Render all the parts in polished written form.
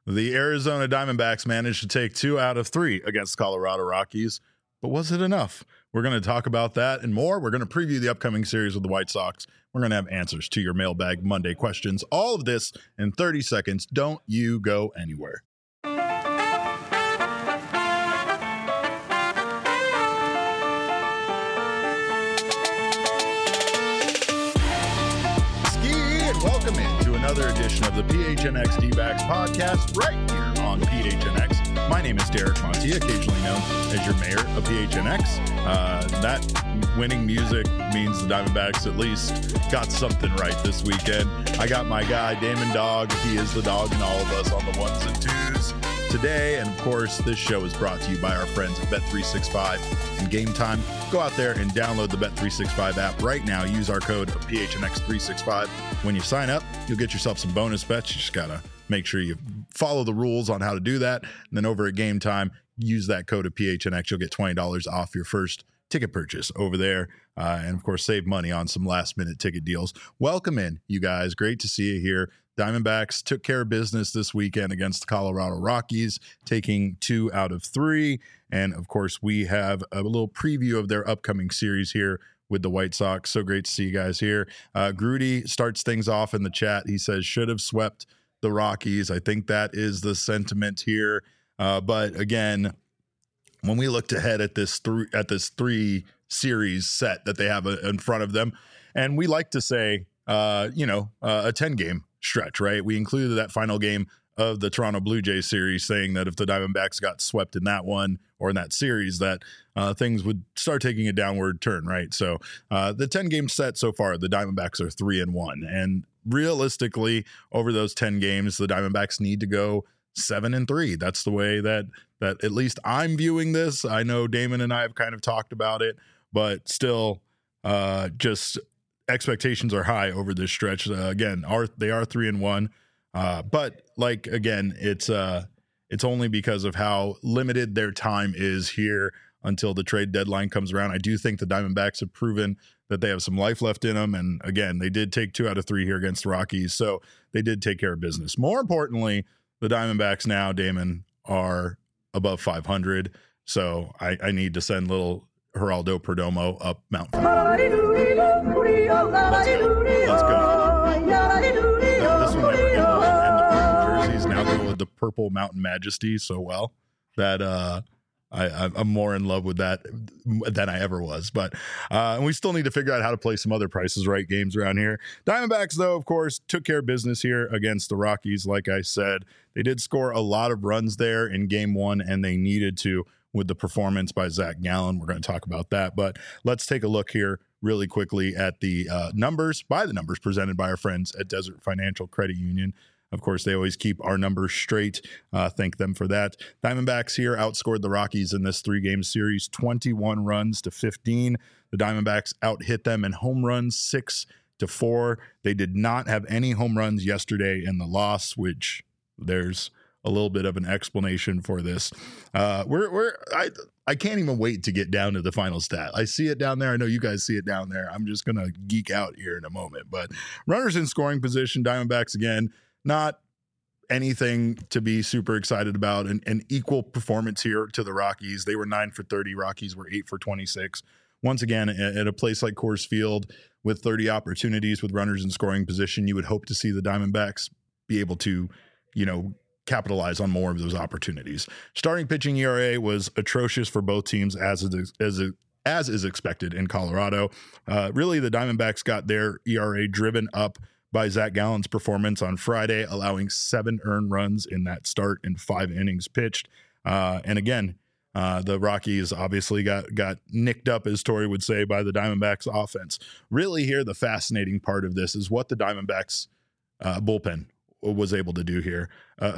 The Arizona Diamondbacks managed to take 2 out of 3 against Colorado Rockies, but was it enough? We're going to talk about that and more. We're going to preview the upcoming series with the White Sox. We're going to have answers to your Mailbag Monday questions. All of this in 30 seconds. Don't you go anywhere. Welcome into another edition of the PHNX D-Backs podcast right here on PHNX. My name is Derek Monti, occasionally known as your mayor of PHNX. That winning music means the Diamondbacks at least got something right this weekend. I got my guy, Damon Dog. He is the dog in all of us on the ones and twos today. And of course, this show is brought to you by our friends at Bet365 and Game Time. Go out there and download the Bet365 app right now. Use our code of PHNX365. When you sign up, you'll get yourself some bonus bets. You just got to make sure you follow the rules on how to do that. And then over at Game Time, use that code of PHNX. You'll get $20 off your first ticket purchase over there. And of course, save money on some last minute ticket deals. Welcome in, you guys. Great to see you here. Diamondbacks took care of business this weekend against the Colorado Rockies, taking 2 out of 3. And of course, we have a little preview of their upcoming series here with the White Sox. So great to see you guys here. Grudy starts things off in the chat. He says, should have swept the Rockies. I think that is the sentiment here. But again, when we looked ahead at this 3 series set that they have in front of them, and we like to say, a 10-game stretch, right? We included that final game of the Toronto Blue Jays series, saying that if the Diamondbacks got swept in that one or in that series, that things would start taking a downward turn, right? So the 10-game set so far, the Diamondbacks are 3-1. And realistically, over those 10 games, the Diamondbacks need to go 7-3. That's the way that at least I'm viewing this. I know Damon and I have kind of talked about it, but still just expectations are high over this stretch. Again, they are 3-1. But like, again, it's only because of how limited their time is here until the trade deadline comes around. I do think the Diamondbacks have proven that they have some life left in them. And again, they did take 2 out of 3 here against the Rockies. So they did take care of business. More importantly, the Diamondbacks now, Damon, are above 500. So I need to send little Geraldo Perdomo up Mount. Let's go. This one never get old. And the purple jerseys now go with the purple Mountain Majesty so well that I'm more in love with that than I ever was. But and we still need to figure out how to play some other prices right games around here. Diamondbacks, though, of course, took care of business here against the Rockies. Like I said, they did score a lot of runs there in game 1, and they needed to with the performance by Zach Gallen. We're going to talk about that. But let's take a look here really quickly at the numbers presented by our friends at Desert Financial Credit Union. Of course, they always keep our numbers straight. Thank them for that. Diamondbacks here outscored the Rockies in this 3-game series, 21 runs to 15. The Diamondbacks out-hit them in home runs, 6-4. They did not have any home runs yesterday in the loss, which there's a little bit of an explanation for this. I can't even wait to get down to the final stat. I see it down there. I know you guys see it down there. I'm just going to geek out here in a moment. But runners in scoring position, Diamondbacks again, not anything to be super excited about. An equal performance here to the Rockies. They were 9 for 30. Rockies were 8 for 26. Once again, at a place like Coors Field with 30 opportunities with runners in scoring position, you would hope to see the Diamondbacks be able to, capitalize on more of those opportunities. Starting pitching ERA was atrocious for both teams, as is expected in Colorado. Really, the Diamondbacks got their ERA driven up by Zach Gallen's performance on Friday, allowing 7 earned runs in that start in 5 innings pitched. And again, the Rockies obviously got nicked up, as Torey would say, by the Diamondbacks offense. Really here, the fascinating part of this is what the Diamondbacks bullpen was able to do here. A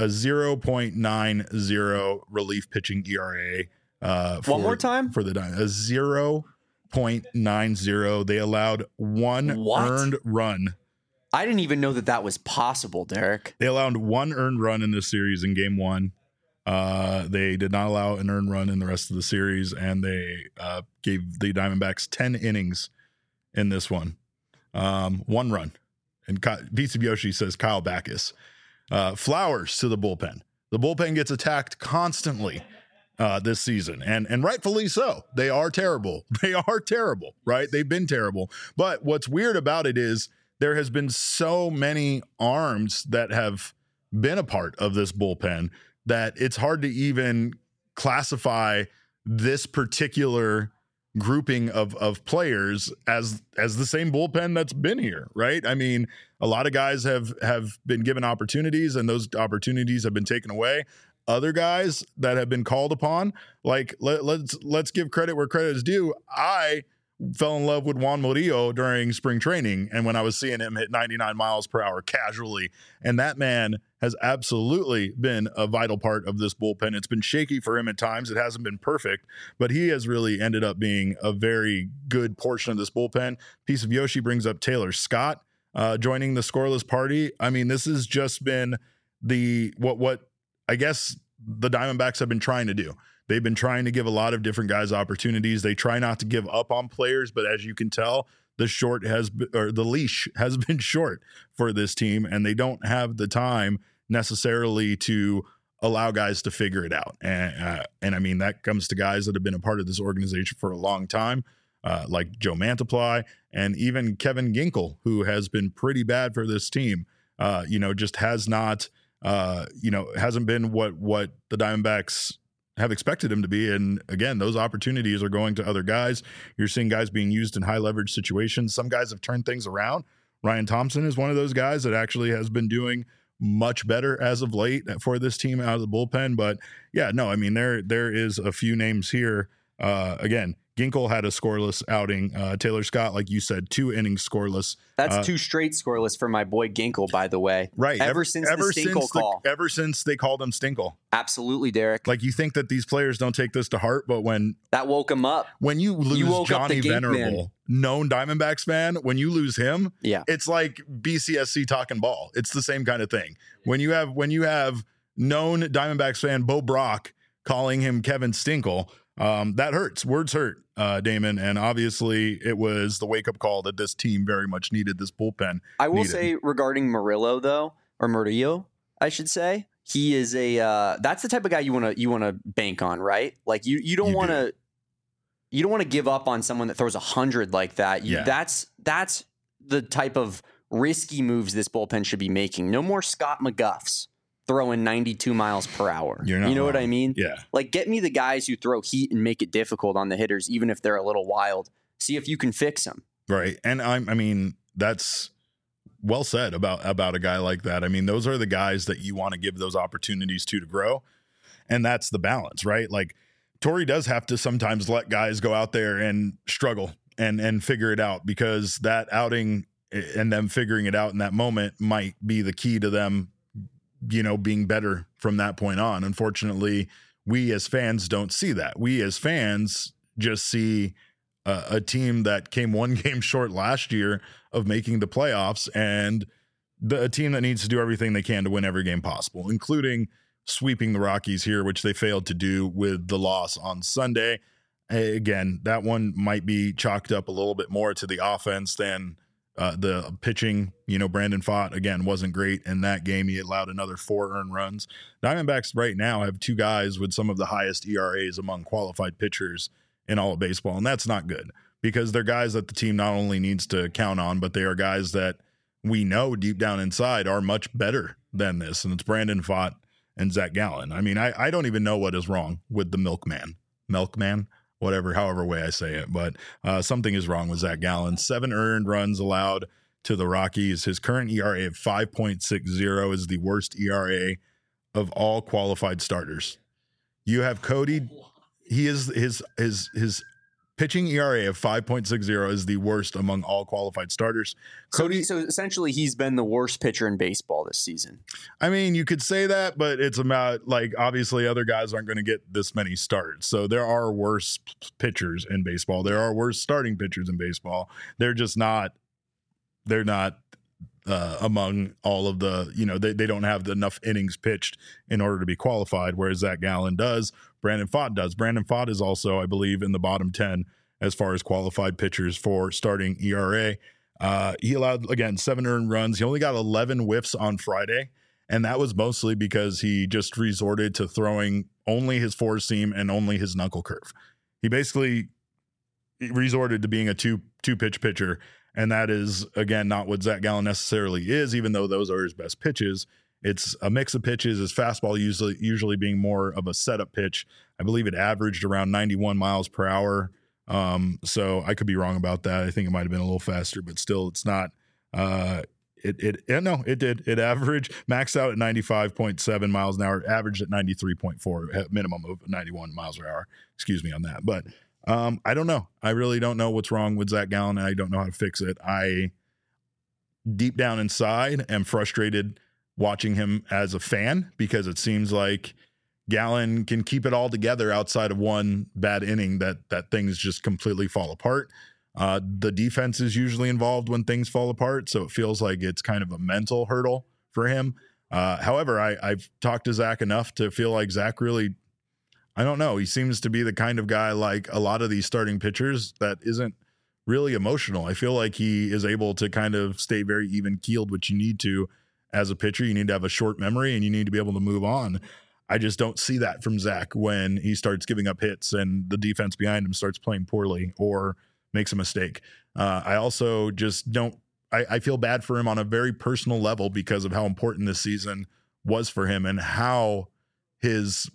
0.90 relief pitching ERA. One more time? For the Diamondbacks. A 0.90. They allowed one earned run. I didn't even know that was possible, Derek. They allowed 1 earned run in this series in game 1. They did not allow an earned run in the rest of the series, and they gave the Diamondbacks 10 innings in this one. 1 run. And VCByoshi says Kyle Backus. Flowers to the bullpen. The bullpen gets attacked constantly this season, and rightfully so. They are terrible. They are terrible, right? They've been terrible. But what's weird about it is there has been so many arms that have been a part of this bullpen that it's hard to even classify this particular grouping of players as the same bullpen that's been here, right? I mean, a lot of guys have been given opportunities, and those opportunities have been taken away. Other guys that have been called upon, like let's give credit where credit is due. I fell in love with Juan Murillo during spring training, and when I was seeing him hit 99 miles per hour casually, and that man has absolutely been a vital part of this bullpen. It's been shaky for him at times. It hasn't been perfect, but he has really ended up being a very good portion of this bullpen. Piece of Yoshi brings up Taylor Scott joining the scoreless party. I mean, this has just been what I guess the Diamondbacks have been trying to do. They've been trying to give a lot of different guys opportunities. They try not to give up on players, but as you can tell, the leash has been short for this team, and they don't have the time necessarily to allow guys to figure it out. And I mean, that comes to guys that have been a part of this organization for a long time, like Joe Mantiply and even Kevin Ginkel, who has been pretty bad for this team. Just has not, hasn't been what the Diamondbacks have expected him to be. And again, those opportunities are going to other guys. You're seeing guys being used in high leverage situations. Some guys have turned things around. Ryan Thompson is one of those guys that actually has been doing much better as of late for this team out of the bullpen. But yeah, no, I mean, there is a few names here. Again, Ginkel had a scoreless outing. Taylor Scott, like you said, 2 innings scoreless. That's 2 straight scoreless for my boy Ginkel, by the way. Right. Ever since the Stinkle call. Ever since they called him Stinkle. Absolutely, Derek. Like, you think that these players don't take this to heart, but that woke him up. When you lose Johnny Venerable, known Diamondbacks fan, when you lose him, it's like BCSC talking ball. It's the same kind of thing. When you have known Diamondbacks fan Bo Brock calling him Kevin Stinkle, that hurts. Words hurt, Damon. And obviously it was the wake-up call that this team very much needed, this bullpen. I will say regarding Murillo, I should say, he is that's the type of guy you want to bank on, right? Like you don't want to give up on someone that throws 100 like that. That's the type of risky moves this bullpen should be making. No more Scott McGuffs throwing 92 miles per hour. You know what I mean? Yeah. Like, get me the guys who throw heat and make it difficult on the hitters, even if they're a little wild. See if you can fix them. Right. And I mean, that's well said about a guy like that. I mean, those are the guys that you want to give those opportunities to grow. And that's the balance, right? Like, Torey does have to sometimes let guys go out there and struggle and figure it out, because that outing and them figuring it out in that moment might be the key to them, being better from that point on. Unfortunately, we as fans don't see that. We as fans just see a team that came one game short last year of making the playoffs, and a team that needs to do everything they can to win every game possible, including sweeping the Rockies here, which they failed to do with the loss on Sunday. Again, that one might be chalked up a little bit more to the offense than the pitching. Brandon Pfaadt, again, wasn't great in that game. He allowed another 4 earned runs. Diamondbacks right now have 2 guys with some of the highest ERAs among qualified pitchers in all of baseball, and that's not good, because they're guys that the team not only needs to count on, but they are guys that we know deep down inside are much better than this, and it's Brandon Pfaadt and Zach Gallen. I mean, I don't even know what is wrong with the milkman, however way I say it, but something is wrong with Zach Gallen. 7 earned runs allowed to the Rockies. His current ERA of 5.60 is the worst ERA of all qualified starters. You have Cody. He is his pitching ERA of 5.60 is the worst among all qualified starters. Cody, so essentially he's been the worst pitcher in baseball this season. I mean, you could say that, but it's about, like, obviously other guys aren't going to get this many starts. So there are worse pitchers in baseball. There are worse starting pitchers in baseball. They're not among all of the, they don't have enough innings pitched in order to be qualified, whereas Zach Gallen does. Brandon Pfaadt does. Brandon Pfaadt is also, I believe, in the bottom 10 as far as qualified pitchers for starting ERA. He allowed, again, 7 earned runs. He only got 11 whiffs on Friday. And that was mostly because he just resorted to throwing only his four seam and only his knuckle curve. He basically resorted to being a two pitch pitcher. And that is, again, not what Zach Gallen necessarily is, even though those are his best pitches. It's a mix of pitches. His fastball usually being more of a setup pitch. I believe it averaged around 91 miles per hour. So I could be wrong about that. I think it might have been a little faster, but still, it's not. It did. It averaged, maxed out at 95.7 miles an hour, averaged at 93.4, minimum of 91 miles per hour. Excuse me on that. But I don't know. I really don't know what's wrong with Zach Gallen, and I don't know how to fix it. I, deep down inside, am frustrated watching him as a fan, because it seems like Gallen can keep it all together outside of one bad inning that things just completely fall apart. The defense is usually involved when things fall apart, so it feels like it's kind of a mental hurdle for him. However, I've talked to Zach enough to feel like Zach really, I don't know, he seems to be the kind of guy, like a lot of these starting pitchers, that isn't really emotional. I feel like he is able to kind of stay very even-keeled, which you need to as a pitcher. You need to have a short memory and you need to be able to move on. I just don't see that from Zach when he starts giving up hits and the defense behind him starts playing poorly or makes a mistake. I also just don't, I feel bad for him on a very personal level because of how important this season was for him and how his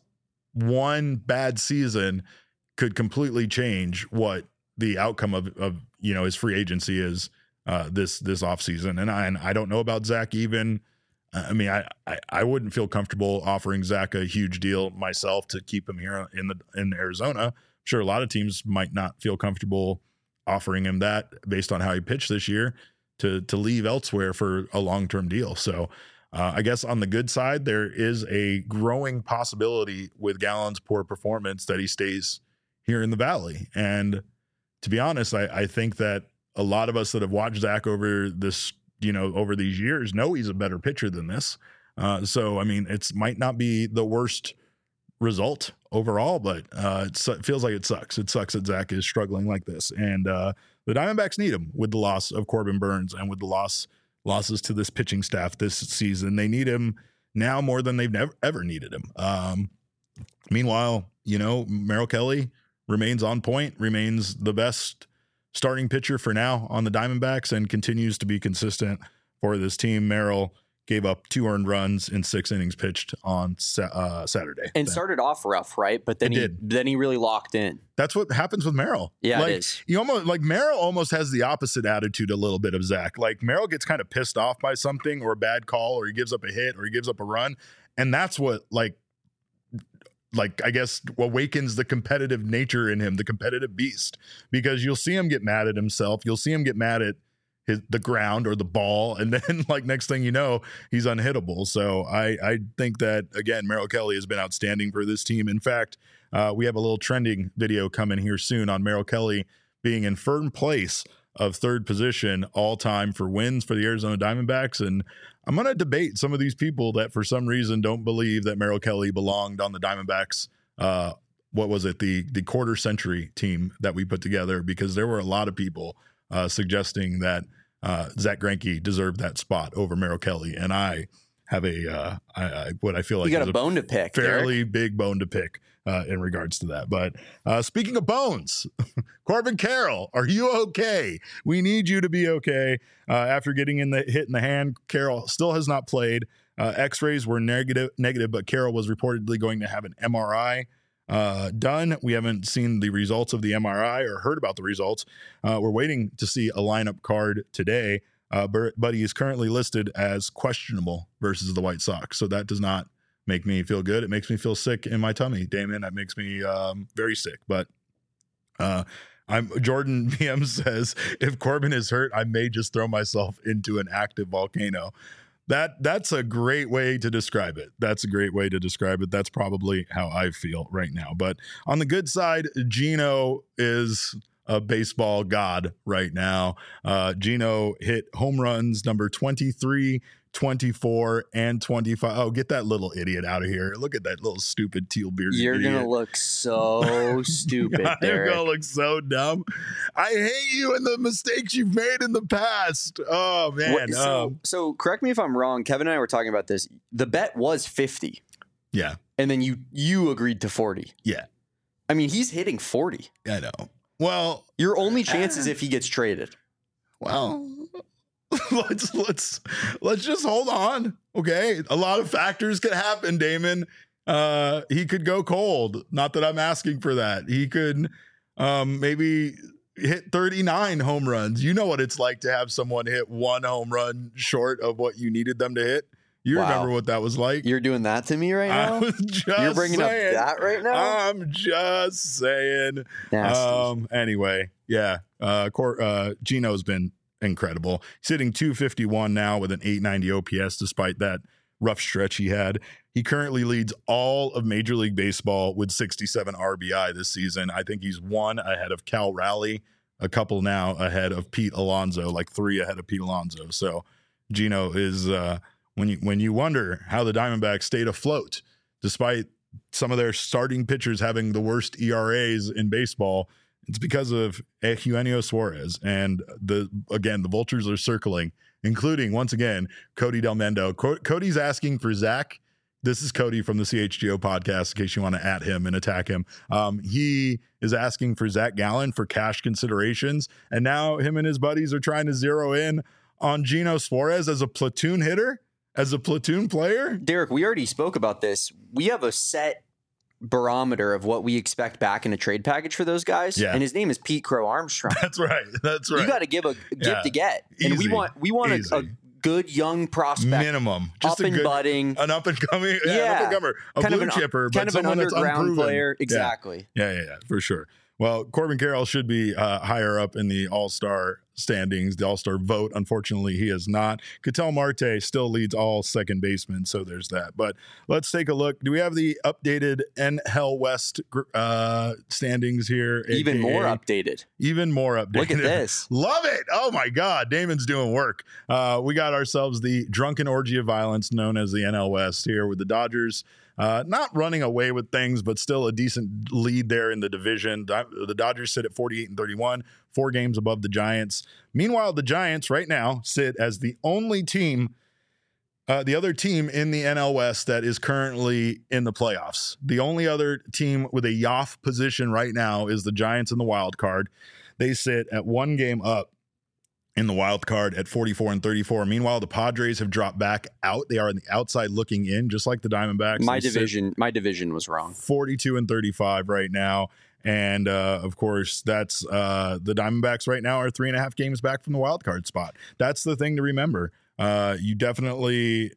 one bad season could completely change what the outcome of his free agency is this offseason. And I don't know about Zach even. I mean, I wouldn't feel comfortable offering Zach a huge deal myself to keep him here in Arizona. I'm sure a lot of teams might not feel comfortable offering him that based on how he pitched this year to leave elsewhere for a long-term deal. So I guess on the good side, there is a growing possibility with Gallen's poor performance that he stays here in the Valley. And to be honest, I think that a lot of us that have watched Zach over this, over these years know he's a better pitcher than this. So, I mean, it might not be the worst result overall, but it feels like it sucks. It sucks that Zach is struggling like this. And the Diamondbacks need him with the loss of Corbin Burnes and with the losses to this pitching staff this season. They need him now more than they've ever needed him. Meanwhile, Merrill Kelly remains on point, remains the best starting pitcher for now on the Diamondbacks, and continues to be consistent for this team. Merrill gave up 2 earned runs in 6 innings pitched on Saturday. And started off rough, right? But then he really locked in. That's what happens with Merrill. Yeah, it is. Merrill almost has the opposite attitude a little bit of Zach. Like, Merrill gets kind of pissed off by something or a bad call, or he gives up a hit, or he gives up a run. And that's what, I guess, awakens the competitive nature in him, the competitive beast, because you'll see him get mad at himself. You'll see him get mad at the ground or the ball. And then next thing you know, he's unhittable. So I think that, again, Merrill Kelly has been outstanding for this team. In fact, we have a little trending video coming here soon on Merrill Kelly being in first place of 3rd position all time for wins for the Arizona Diamondbacks. And I'm going to debate some of these people that for some reason don't believe that Merrill Kelly belonged on the Diamondbacks. What was it? The quarter century team that we put together, because there were a lot of people suggesting that Zach Greinke deserved that spot over Merrill Kelly. And I have what I feel like you got a bone to pick, fairly Derek. Big bone to pick in regards to that. But speaking of bones, Corbin Carroll, are you okay? We need you to be okay. After getting hit in the hand, Carroll still has not played. X-rays were negative, but Carroll was reportedly going to have an MRI done. We haven't seen the results of the MRI or heard about the results. We're waiting to see a lineup card today, but he is currently listed as questionable versus the White Sox. So that does not make me feel good. It makes me feel sick in my tummy, Damon. That makes me very sick. But Jordan BM says, if Corbin is hurt, I may just throw myself into an active volcano. That's a great way to describe it. That's probably how I feel right now. But on the good side, Gino is a baseball god right now. Gino hit home runs number 23 24, and 25. Oh, get that little idiot out of here. Look at that little stupid teal bearded You're idiot. going to look so stupid, You're Derek. going to look so dumb. I hate you and the mistakes you've made in the past. Oh, man. So correct me if I'm wrong. Kevin and I were talking about this. The bet was 50. Yeah. And then you agreed to 40. Yeah. I mean, he's hitting 40. I know. Well, your only chance is if he gets traded. Well, let's just hold on. Okay. A lot of factors could happen, Damon. He could go cold. Not that I'm asking for that. He could maybe hit 39 home runs. You know what it's like to have someone hit one home run short of what you needed them to hit. You remember what that was like? You're doing that to me right now? I was just You're bringing saying, up that right now? I'm just saying. Nasty. Anyway, yeah. Gino's been incredible. He's hitting 251 now with an 890 OPS despite that rough stretch he had. He currently leads all of Major League Baseball with 67 RBI this season. I think he's one ahead of Cal Raleigh, a couple now ahead of Pete Alonso, like 3 ahead of Pete Alonso. So Gino is when you wonder how the Diamondbacks stayed afloat despite some of their starting pitchers having the worst ERAs in baseball, it's because of Eugenio Suarez. And the Vultures are circling, including, once again, Cody Del Mendo. Cody's asking for Zach. This is Cody from the CHGO podcast, in case you want to at him and attack him. He is asking for Zach Gallen for cash considerations. And now him and his buddies are trying to zero in on Gino Suarez as a platoon hitter, as a platoon player. Derek, we already spoke about this. We have a set barometer of what we expect back in a trade package for those guys. Yeah. And his name is Pete Crow Armstrong. That's right. You got to give a gift to get. And Easy. we want a good young prospect. Minimum. Just up and budding. An up and coming. Yeah. An up and comer. A blue chipper. Kind of an underground player. Exactly. Yeah, for sure. Well, Corbin Carroll should be higher up in the All-Star standings, the All-Star vote. Unfortunately, he is not. Ketel Marte still leads all second basemen, so there's that. But let's take a look. Do we have the updated NL West standings here? Even more updated. Look at this. Love it. Oh, my God. Damon's doing work. We got ourselves the drunken orgy of violence known as the NL West here with the Dodgers. Not running away with things, but still a decent lead there in the division. The Dodgers sit at 48-31, 4 games above the Giants. Meanwhile, the Giants right now sit as the only team, the other team in the NL West that is currently in the playoffs. The only other team with a YOF position right now is the Giants in the wild card. They sit at 1 game up in the wild card at 44-34. Meanwhile, the Padres have dropped back out. They are on the outside looking in, just like the Diamondbacks. My division was wrong. 42-35 right now. And of course, that's the Diamondbacks right now are 3.5 games back from the wild card spot. That's the thing to remember. You definitely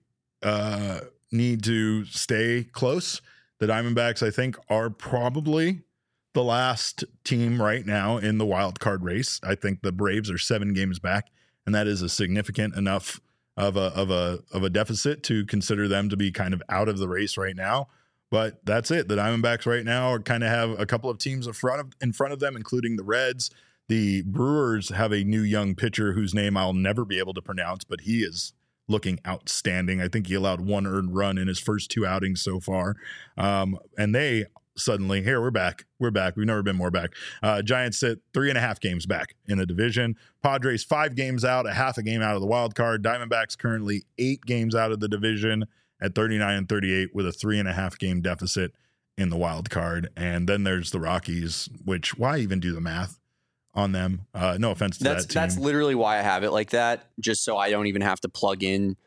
need to stay close. The Diamondbacks, I think, are probably the last team right now in the wild card race. I think the Braves are 7 games back, and that is a significant enough of a deficit to consider them to be kind of out of the race right now. But that's it. The Diamondbacks right now are kind of have a couple of teams in front of them, including the Reds. The Brewers have a new young pitcher whose name I'll never be able to pronounce, but he is looking outstanding. I think he allowed 1 earned run in his first 2 outings so far. And they suddenly, here, we're back. We've never been more back. Giants sit 3.5 games back in the division. Padres 5 games out, a half a game out of the wild card. Diamondbacks currently 8 games out of the division at 39-38 with a 3.5 game deficit in the wild card. And then there's the Rockies, which why even do the math on them? No offense to that team. That's literally why I have it like that, just so I don't even have to plug in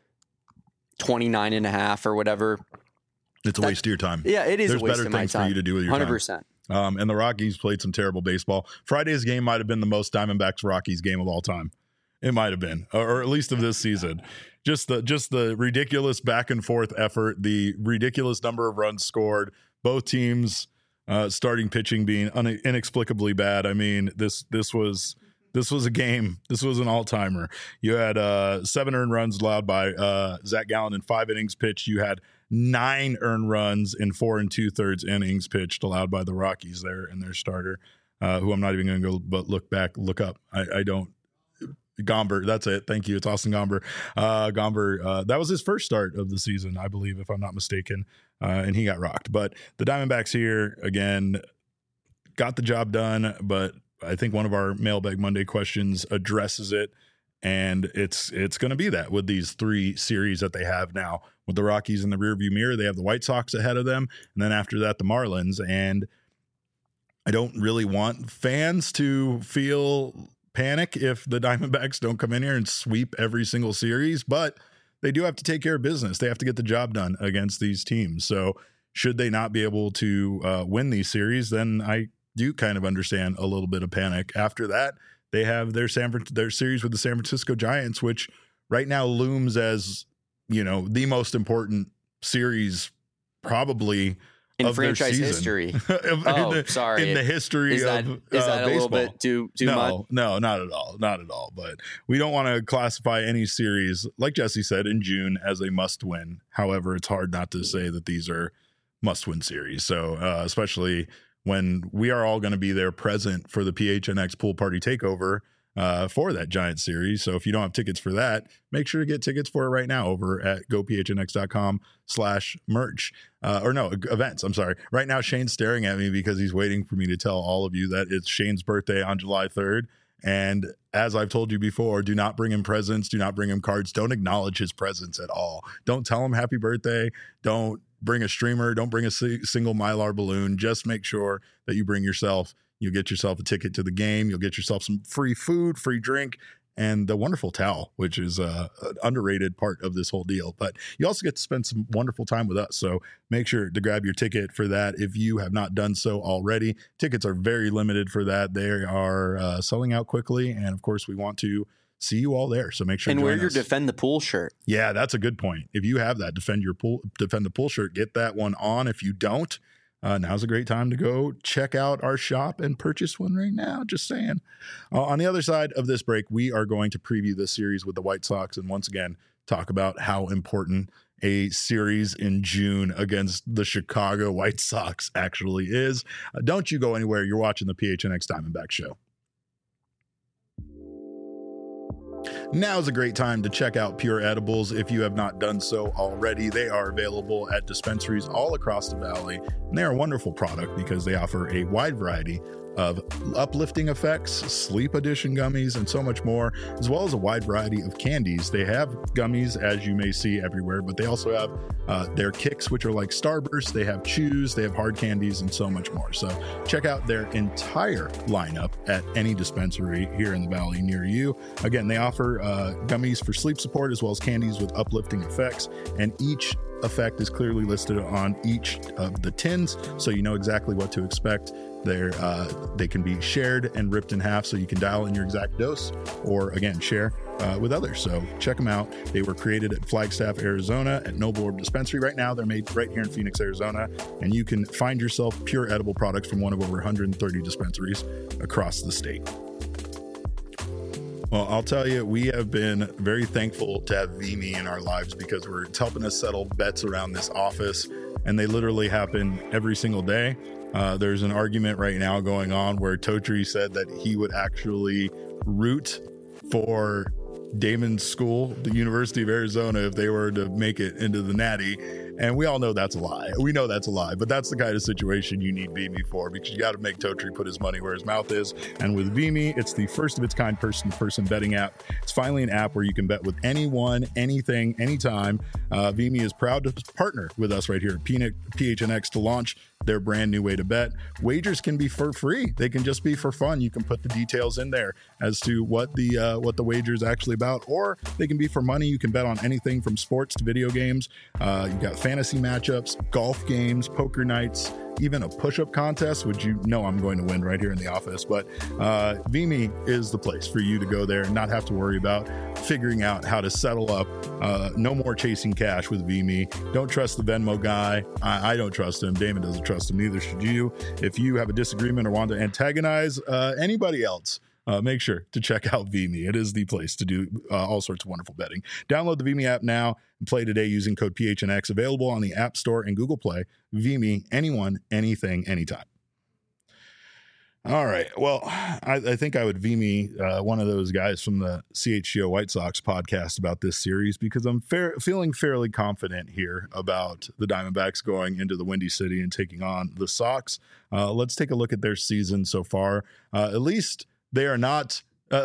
29.5 or whatever. It's a waste of your time. Yeah, it is a waste of my time. There's better things for you to do with your 100%. time. And the Rockies played some terrible baseball. Friday's game might have been the most Diamondbacks-Rockies game of all time. It might have been, or at least of this season. Just the ridiculous back and forth effort, the ridiculous number of runs scored. Both teams starting pitching being inexplicably bad. I mean, this was a game. This was an all-timer. You had 7 earned runs allowed by Zach Gallen in 5 innings pitched. You had 9 earned runs in 4 2/3 innings pitched allowed by the Rockies there and their starter, who I'm not even going to go but look up. I don't. Gomber. That's it. Thank you. It's Austin Gomber. Gomber, that was his first start of the season, I believe, if I'm not mistaken. And he got rocked. But the Diamondbacks here, again, got the job done. But I think one of our Mailbag Monday questions addresses it. And it's going to be that with these 3 series that they have now. With the Rockies in the rearview mirror, they have the White Sox ahead of them. And then after that, the Marlins. And I don't really want fans to feel panic if the Diamondbacks don't come in here and sweep every single series, but they do have to take care of business. They have to get the job done against these teams. So should they not be able to win these series, then I do kind of understand a little bit of panic. After that, they have their series with the San Francisco Giants, which right now looms as, the most important series probably in franchise history. In the history is that of a baseball. little bit too much? No, not at all. But we don't want to classify any series, like Jesse said, in June as a must-win. However, it's hard not to say that these are must-win series. So especially when we are all going to be there present for the PHNX Pool Party Takeover for that Giant series. So if you don't have tickets for that, make sure to get tickets for it right now over at gophnx.com/merch events. I'm sorry. Right now, Shane's staring at me because he's waiting for me to tell all of you that it's Shane's birthday on July 3rd. And as I've told you before, do not bring him presents. Do not bring him cards. Don't acknowledge his presence at all. Don't tell him happy birthday. Don't bring a streamer. Don't bring a single Mylar balloon. Just make sure that you bring yourself. You'll get yourself a ticket to the game. You'll get yourself some free food, free drink, and the wonderful towel, which is an underrated part of this whole deal. But you also get to spend some wonderful time with us. So make sure to grab your ticket for that if you have not done so already. Tickets are very limited for that. They are selling out quickly. And of course, we want to see you all there. So make sure and to wear join your us. Defend the Pool shirt. Yeah, that's a good point. If you have that Defend the Pool shirt, get that one on. If you don't, now's a great time to go check out our shop and purchase one right now. Just saying. On the other side of this break, we are going to preview this series with the White Sox and once again talk about how important a series in June against the Chicago White Sox actually is. Don't you go anywhere. You're watching the PHNX Diamondback Show. Now is a great time to check out Pure Edibles if you have not done so already. They are available at dispensaries all across the valley, and they are a wonderful product because they offer a wide variety of uplifting effects, sleep edition gummies, and so much more, as well as a wide variety of candies. They have gummies, as you may see everywhere, but they also have their kicks, which are like Starburst. They have chews, they have hard candies, and so much more. So check out their entire lineup at any dispensary here in the valley near you. Again, they offer gummies for sleep support as well as candies with uplifting effects, and each effect is clearly listed on each of the tins, so you know exactly what to expect. They can be shared and ripped in half, so you can dial in your exact dose or again share with others. So check them out. They were created at Flagstaff, Arizona at Noble Orb Dispensary. Right now they're made right here in Phoenix, Arizona, and you can find yourself pure edible products from one of over 130 dispensaries across the state. Well, I'll tell you, we have been very thankful to have Vimy in our lives because it's helping us settle bets around this office, and they literally happen every single day. There's an argument right now going on where Totri said that he would actually root for Damon's school, the University of Arizona, if they were to make it into the Natty. And we all know that's a lie. We know that's a lie, but that's the kind of situation you need Vimy for, because you got to make Totri put his money where his mouth is. And with Vimy, it's the first of its kind person-to-person betting app. It's finally an app where you can bet with anyone, anything, anytime. Vimy is proud to partner with us right here at PHNX to launch their brand new way to bet. Wagers can be for free. They can just be for fun. You can put the details in there as to what the wager is actually about, or they can be for money. You can bet on anything from sports to video games. You got fantasy matchups, golf games, poker nights, even a push-up contest, which you know I'm going to win right here in the office. But Vimy is the place for you to go there and not have to worry about figuring out how to settle up. No more chasing cash with Vimy. Don't trust the Venmo guy. I don't trust him. Damon doesn't trust him. Neither should you. If you have a disagreement or want to antagonize anybody else, make sure to check out Vimy. It is the place to do all sorts of wonderful betting. Download the Vimy app now and play today using code PHNX. Available on the App Store and Google Play. Vimy, anyone, anything, anytime. All right. Well, I think I would VMe one of those guys from the CHGO White Sox podcast about this series because I'm feeling fairly confident here about the Diamondbacks going into the Windy City and taking on the Sox. Let's take a look at their season so far. At least they are not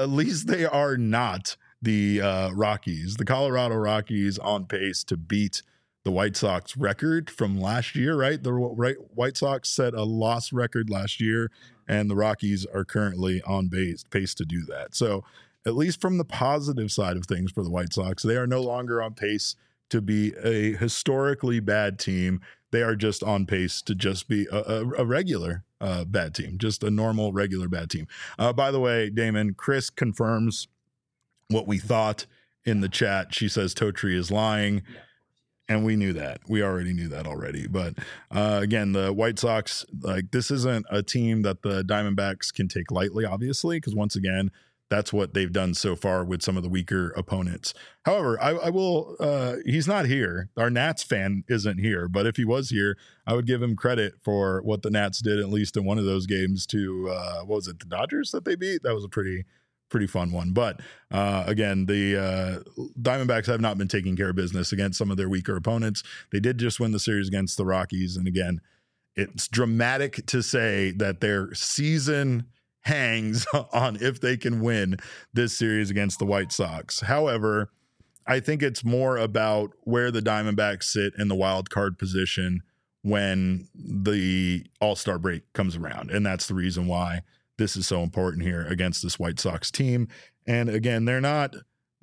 the Rockies. The Colorado Rockies on pace to beat the White Sox record from last year, right? The White Sox set a loss record last year, and the Rockies are currently on pace to do that. So at least from the positive side of things for the White Sox, they are no longer on pace to be a historically bad team. They are just on pace to just be a regular bad team, just a normal, regular bad team. By the way, Damon, Chris confirms what we thought in the chat. She says Totri is lying. And we knew that. We already knew that already. But again, the White Sox, like, this isn't a team that the Diamondbacks can take lightly, obviously, because once again, that's what they've done so far with some of the weaker opponents. However, I will, he's not here. Our Nats fan isn't here. But if he was here, I would give him credit for what the Nats did, at least in one of those games to, what was it, the Dodgers that they beat? That was a pretty fun one. But again, the Diamondbacks have not been taking care of business against some of their weaker opponents. They did just win the series against the Rockies. And again, it's dramatic to say that their season hangs on if they can win this series against the White Sox. However, I think it's more about where the Diamondbacks sit in the wild card position when the All-Star break comes around. And that's the reason why this is so important here against this White Sox team. And again, they're not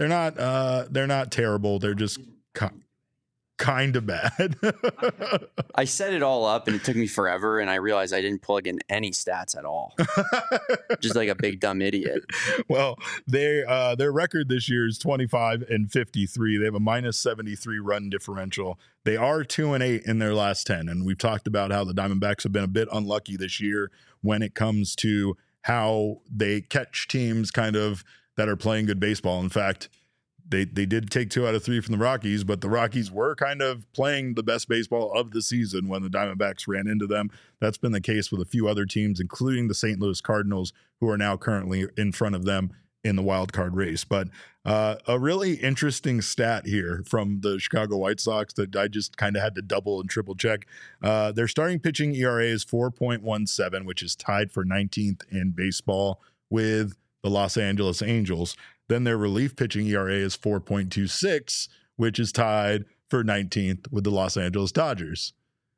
terrible. They're just kind of bad. I set it all up and it took me forever. And I realized I didn't plug in any stats at all. Just like a big dumb idiot. Well, their record this year is 25-53. They have a -73 run differential. They are 2-8 in their last 10. And we've talked about how the Diamondbacks have been a bit unlucky this year when it comes to how they catch teams kind of that are playing good baseball. In fact, they did take 2 out of 3 from the Rockies, but the Rockies were kind of playing the best baseball of the season when the Diamondbacks ran into them. That's been the case with a few other teams, including the St. Louis Cardinals, who are now currently in front of them in the wild card race. But a really interesting stat here from the Chicago White Sox that I just kind of had to double and triple check. Their starting pitching ERA is 4.17, which is tied for 19th in baseball with the Los Angeles Angels. Then their relief pitching ERA is 4.26, which is tied for 19th with the Los Angeles Dodgers.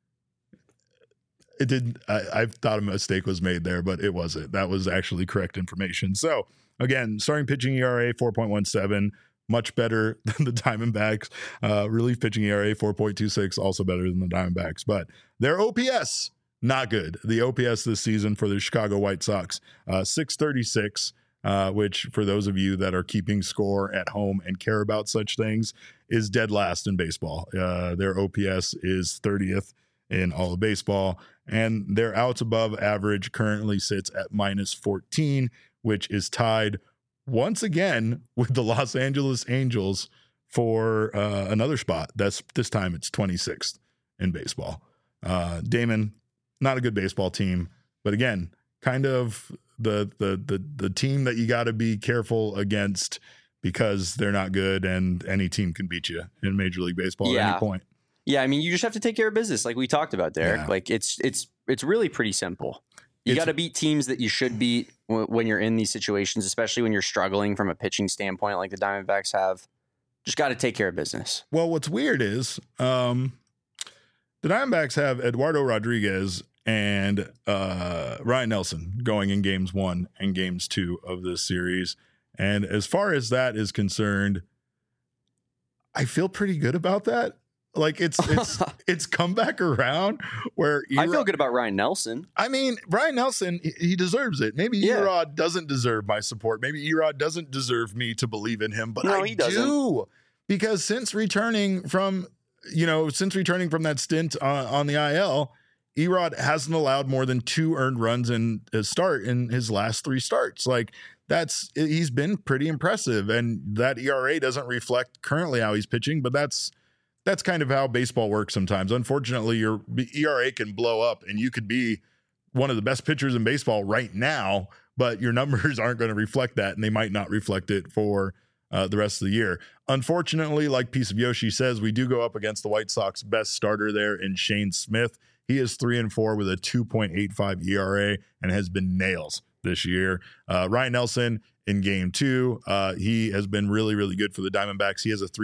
It didn't. I thought a mistake was made there, but it wasn't. That was actually correct information. So again, starting pitching ERA 4.17, much better than the Diamondbacks. Relief pitching ERA 4.26, also better than the Diamondbacks. But their OPS, not good. The OPS this season for the Chicago White Sox, 636. Which for those of you that are keeping score at home and care about such things is dead last in baseball. Their OPS is 30th in all of baseball, and their outs above average currently sits at -14, which is tied once again with the Los Angeles Angels for another spot. This time it's 26th in baseball. Damon, not a good baseball team, but again, kind of the team that you got to be careful against because they're not good and any team can beat you in Major League Baseball at any point. Yeah, I mean, you just have to take care of business like we talked about, Derek. Yeah. Like it's really pretty simple. You got to beat teams that you should beat when you're in these situations, especially when you're struggling from a pitching standpoint like the Diamondbacks have. Just got to take care of business. Well, what's weird is the Diamondbacks have Eduardo Rodriguez and Ryan Nelson going in games 1 and games 2 of this series. And as far as that is concerned, I feel pretty good about that. Like it's come back around where I feel good about Ryan Nelson. I mean, Ryan Nelson, he deserves it. Maybe Erod doesn't deserve my support. Maybe Erod doesn't deserve me to believe in him, but I do. Because since returning from that stint on the IL, Erod hasn't allowed more than 2 earned runs in his start in his last 3 starts. Like he's been pretty impressive, and that ERA doesn't reflect currently how he's pitching, but that's kind of how baseball works sometimes. Unfortunately, your ERA can blow up and you could be one of the best pitchers in baseball right now, but your numbers aren't going to reflect that, and they might not reflect it for the rest of the year. Unfortunately, like Piece of Yoshi says, we do go up against the White Sox best starter there in Shane Smith. He is 3-4 with a 2.85 ERA and has been nails this year. Ryan Nelson in game 2, he has been really, really good for the Diamondbacks. He has a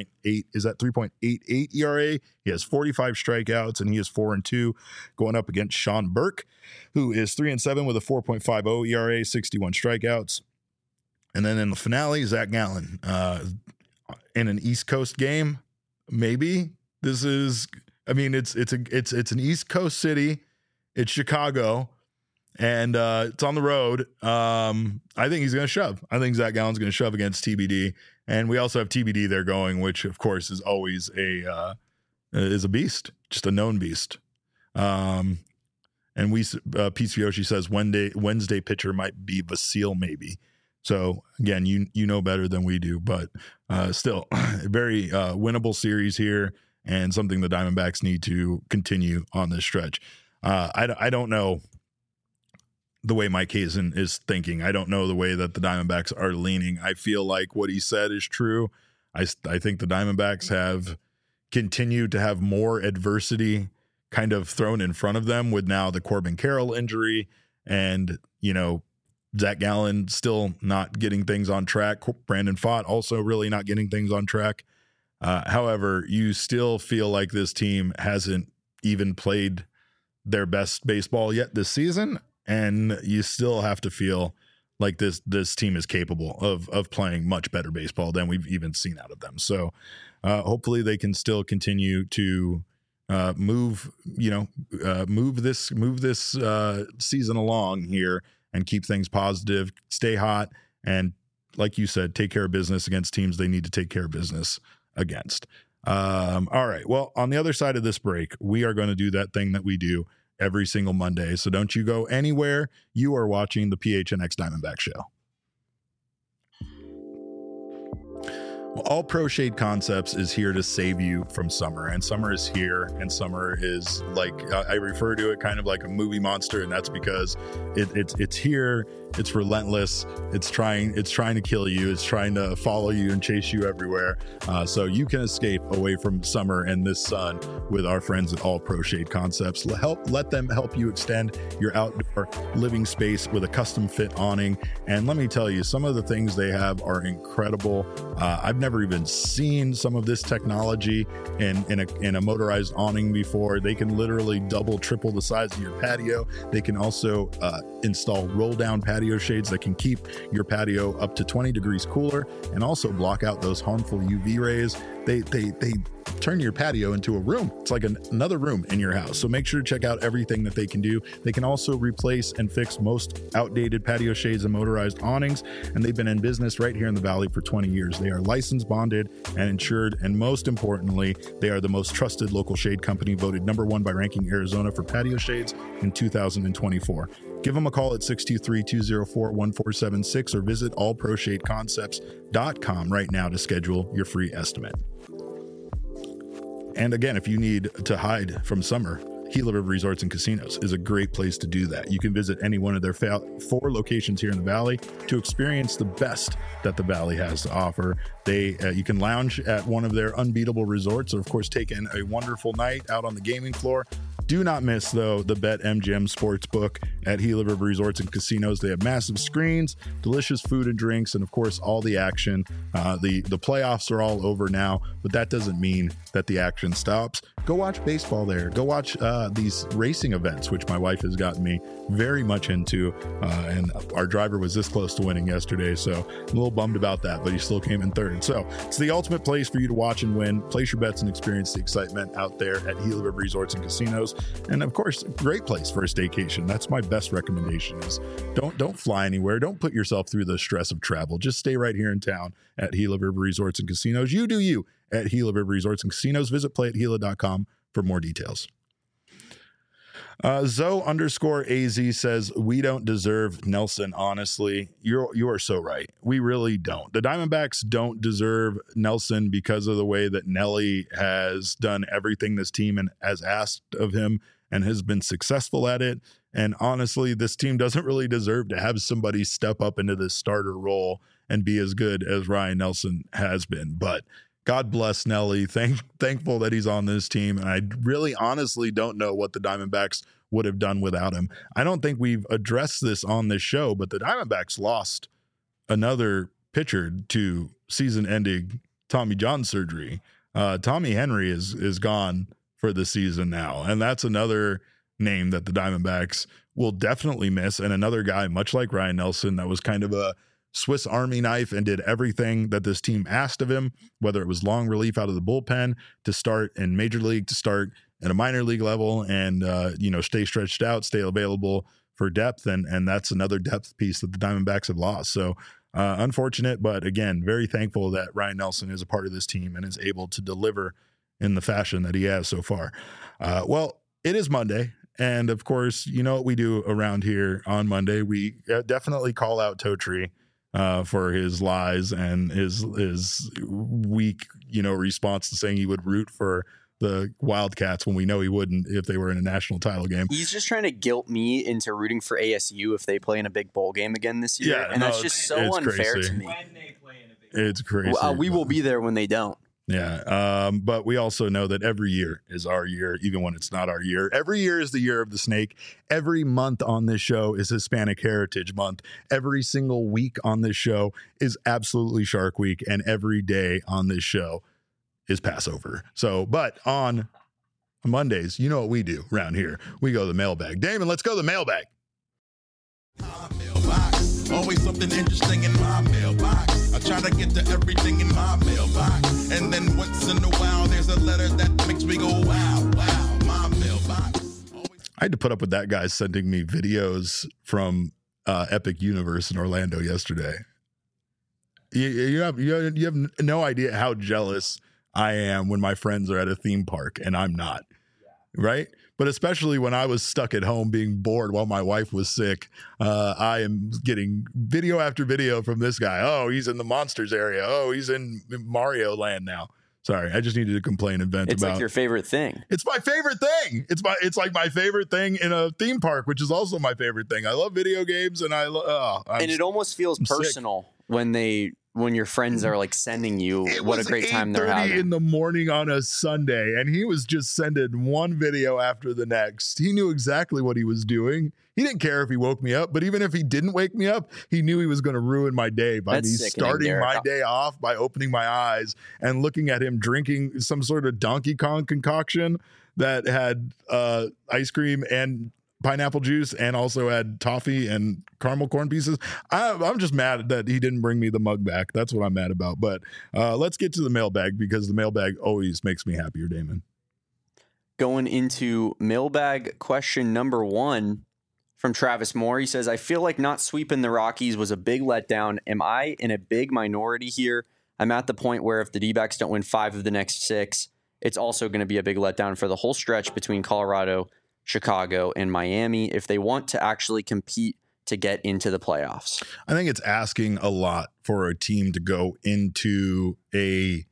3.88 ERA. He has 45 strikeouts, and he is 4-2 going up against Sean Burke, who is 3-7 with a 4.50 ERA, 61 strikeouts. And then in the finale, Zach Gallen in an East Coast game. Maybe this is, I mean, it's an East Coast city. It's Chicago, and it's on the road. I think he's going to shove. I think Zach Gallen's going to shove against TBD, and we also have TBD there going, which of course is always a beast, just a known beast. And Piece of Yoshi says Wednesday pitcher might be Vasil, maybe. So again, you know better than we do, but still a very winnable series here, and something the Diamondbacks need to continue on this stretch. I don't know the way Mike Hazen is thinking. I don't know the way that the Diamondbacks are leaning. I feel like what he said is true. I think the Diamondbacks have continued to have more adversity kind of thrown in front of them with now the Corbin Carroll injury, and, Zach Gallen still not getting things on track. Brandon Pfaadt also really not getting things on track. However, you still feel like this team hasn't even played their best baseball yet this season, and you still have to feel like this team is capable of playing much better baseball than we've even seen out of them. So hopefully they can still continue to move this season along here and keep things positive, stay hot, and like you said, take care of business against teams they need to take care of business against. All right. Well, on the other side of this break, we are going to do that thing that we do every single Monday. So don't you go anywhere. You are watching the PHNX Diamondback Show. Well, All Pro Shade Concepts is here to save you from summer, and summer is here, and summer is like, I refer to it kind of like a movie monster, and that's because it's here, it's relentless, it's trying to kill you, it's trying to follow you and chase you everywhere. So you can escape away from summer and this sun with our friends at All Pro Shade Concepts. Let them help you extend your outdoor living space with a custom fit awning. And let me tell you, some of the things they have are incredible. I've never even seen some of this technology in a motorized awning before. They can literally double, triple the size of your patio. They can also install roll down patio shades that can keep your patio up to 20 degrees cooler and also block out those harmful UV rays. They turn your patio into a room. It's like another room in your house. So make sure to check out everything that they can do. They can also replace and fix most outdated patio shades and motorized awnings, and they've been in business right here in the Valley for 20 years. They are licensed, bonded, and insured, and most importantly, they are the most trusted local shade company, voted #1 by Ranking Arizona for patio shades in 2024. Give them a call at 623-204-1476 or visit allproshadeconcepts.com right now to schedule your free estimate. And again, if you need to hide from summer, Gila River Resorts and Casinos is a great place to do that. You can visit any one of their 4 locations here in the Valley to experience the best that the Valley has to offer. You can lounge at one of their unbeatable resorts, or of course take in a wonderful night out on the gaming floor. Do not miss, though, the BetMGM Sportsbook at Gila River Resorts and Casinos. They have massive screens, delicious food and drinks, and of course, all the action. The playoffs are all over now, but that doesn't mean that the action stops. Go watch baseball there. Go watch these racing events, which my wife has gotten me very much into. And our driver was this close to winning yesterday, so I'm a little bummed about that, but he still came in third. So it's the ultimate place for you to watch and win. Place your bets and experience the excitement out there at Gila River Resorts and Casinos. And of course, a great place for a staycation. That's my best recommendation is don't fly anywhere. Don't put yourself through the stress of travel. Just stay right here in town at Gila River Resorts and Casinos. You do you at Gila River Resorts and Casinos. Visit playatgila.com for more details. Zoe_AZ says, we don't deserve Nelson, honestly. You are so right. We really don't. The Diamondbacks don't deserve Nelson because of the way that Nelly has done everything this team and has asked of him and has been successful at it. And honestly, this team doesn't really deserve to have somebody step up into this starter role and be as good as Ryan Nelson has been. But God bless Nelly. Thankful that he's on this team. And I really honestly don't know what the Diamondbacks would have done without him. I don't think we've addressed this on this show, but the Diamondbacks lost another pitcher to season-ending Tommy John surgery. Tommy Henry is gone for the season now, and that's another name that the Diamondbacks will definitely miss, and another guy, much like Ryan Nelson, that was kind of a Swiss Army knife and did everything that this team asked of him, whether it was long relief out of the bullpen, to start in Major League, to start at a minor league level, and stay stretched out, stay available for depth, and that's another depth piece that the Diamondbacks have lost. So unfortunate, but again, very thankful that Ryan Nelson is a part of this team and is able to deliver in the fashion that he has so far. Well, it is Monday, and of course, you know what we do around here on Monday. We definitely call out Totri for his lies and his weak, response to saying he would root for the Wildcats when we know he wouldn't if they were in a national title game. He's just trying to guilt me into rooting for ASU if they play in a big bowl game again this year. Yeah, and that's just so unfair to me. It's crazy. We will be there when they don't. Yeah. But we also know that every year is our year, even when it's not our year. Every year is the year of the snake. Every month on this show is Hispanic Heritage Month. Every single week on this show is absolutely Shark Week. And every day on this show is Passover. So, but on Mondays, you know what we do around here. We go to the mailbag. Damon, let's go to the mailbag. My mailbox, always something interesting in my mailbox. I try to get to everything in my mailbox. And then once in a while, there's a letter that makes me go, wow, wow, my mailbox. I had to put up with that guy sending me videos from Epic Universe in Orlando yesterday. You have no idea how jealous I am when my friends are at a theme park and I'm not, right? But especially when I was stuck at home being bored while my wife was sick, I am getting video after video from this guy. Oh, he's in the Monsters area. Oh, he's in Mario Land now. Sorry, I just needed to complain and vent about. It's like your favorite thing. It's my favorite thing. It's like my favorite thing in a theme park, which is also my favorite thing. I love video games, and and it almost feels personal when your friends are like sending you what a great time they're having. In the morning on a Sunday, and he was just sending one video after the next. He knew exactly what he was doing. He didn't care if he woke me up, but even if he didn't wake me up, he knew he was going to ruin my day by me starting my day off by opening my eyes and looking at him drinking some sort of Donkey Kong concoction that had ice cream and pineapple juice and also had toffee and caramel corn pieces. I'm just mad that he didn't bring me the mug back. That's what I'm mad about. But let's get to the mailbag, because the mailbag always makes me happier, Damon. Going into mailbag question number 1 from Travis Moore. He says, I feel like not sweeping the Rockies was a big letdown. Am I in a big minority here? I'm at the point where if the D-backs don't win 5 of the next 6, it's also going to be a big letdown for the whole stretch between Colorado, Chicago, and Miami if they want to actually compete to get into the playoffs. I think it's asking a lot for a team to go into a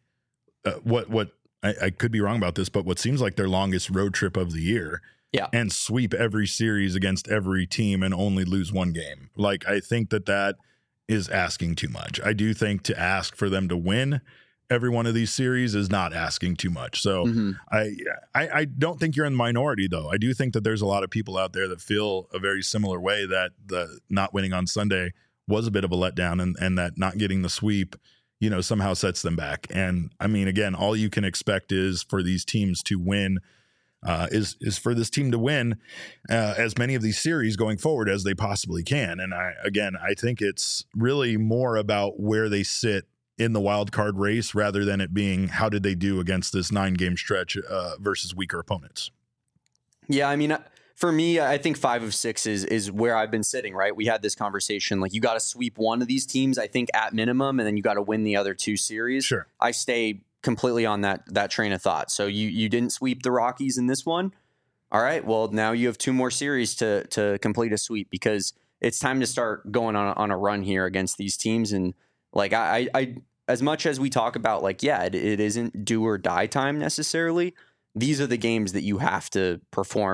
I could be wrong about this, but what seems like their longest road trip of the year. Yeah. And sweep every series against every team and only lose 1 game. Like, I think that is asking too much. I do think to ask for them to win every one of these series is not asking too much. So I don't think you're in the minority, though. I do think that there's a lot of people out there that feel a very similar way, that the not winning on Sunday was a bit of a letdown, and that not getting the sweep, somehow sets them back. And I mean, again, all you can expect is for these teams to win, is for this team to win as many of these series going forward as they possibly can. And I think it's really more about where they sit in the wild card race rather than it being how did they do against this 9-game stretch versus weaker opponents. Yeah, I mean, for me, I think 5 of 6 is where I've been sitting, right? We had this conversation, like you got to sweep one of these teams, I think, at minimum, and then you got to win the other 2 series. Sure. I stay completely on that train of thought. So you didn't sweep the Rockies in this one. All right, well, now you have 2 more series to complete a sweep, because it's time to start going on a run here against these teams. And like I as much as we talk about, like, yeah, it isn't do or die time necessarily, these are the games that you have to perform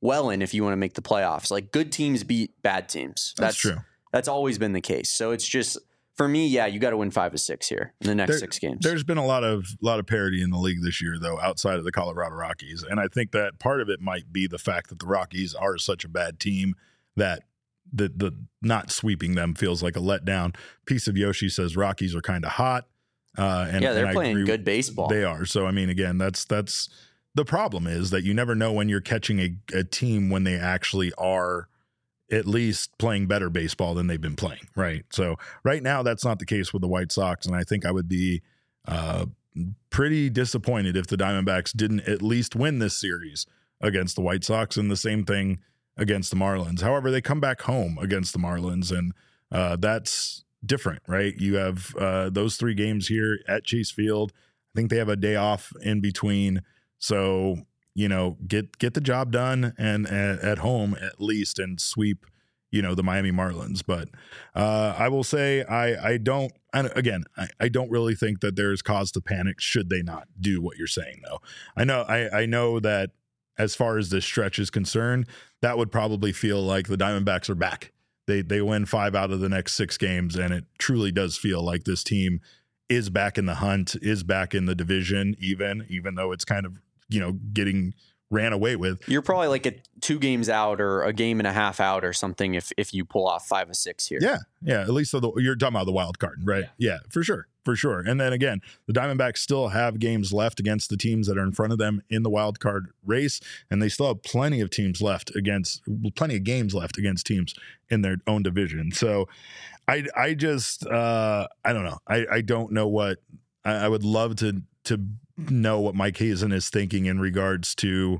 well in if you want to make the playoffs. Like, good teams beat bad teams. That's true. That's always been the case. So it's just, for me, yeah, you got to win 5 of 6 here in the next 6 games. There's been a lot of parity in the league this year, though, outside of the Colorado Rockies. And I think that part of it might be the fact that the Rockies are such a bad team that the not sweeping them feels like a letdown. Piece of Yoshi says Rockies are kind of hot. They're playing good baseball. They are. So, I mean, again, that's the problem is that you never know when you're catching a team when they actually are at least playing better baseball than they've been playing, right? So right now, that's not the case with the White Sox, and I think I would be pretty disappointed if the Diamondbacks didn't at least win this series against the White Sox, and the same thing against the Marlins. However, they come back home against the Marlins, and that's different, right? You have those 3 games here at Chase Field. I think they have a day off in between, so get the job done and at home at least, and sweep the Miami Marlins. But I will say I don't really think that there's cause to panic should they not do what you're saying, though. I know that as far as this stretch is concerned, that would probably feel like the Diamondbacks are back. They win 5 out of the next 6 games, and it truly does feel like this team is back in the hunt, is back in the division, even though it's kind of getting ran away with. You're probably like 2 games out or a game and a half out or something if you pull off 5 of 6 here. Yeah. At least you're talking about the wild card, right? Yeah, for sure. And then again, the Diamondbacks still have games left against the teams that are in front of them in the wild card race, and they still have plenty of games left against teams in their own division. So I just I don't know. I don't know what I would love to know what Mike Hazen is thinking in regards to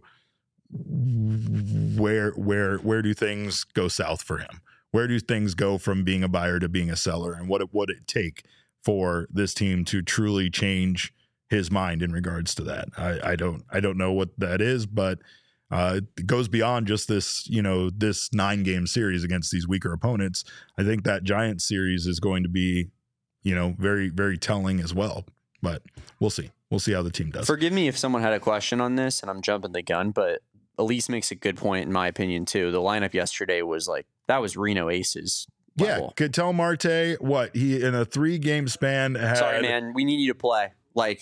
where do things go south for him? Where do things go from being a buyer to being a seller, and what would it take for this team to truly change his mind in regards to that? I don't know what that is, but it goes beyond just this, this 9-game series against these weaker opponents. I think that Giants series is going to be, very, very telling as well, but we'll see. We'll see how the team does. Forgive me if someone had a question on this and I'm jumping the gun, but Elise makes a good point in my opinion too. The lineup yesterday was that was Reno Aces level. Yeah, Ketel Marte, he in a 3-game span had... Sorry, man, we need you to play.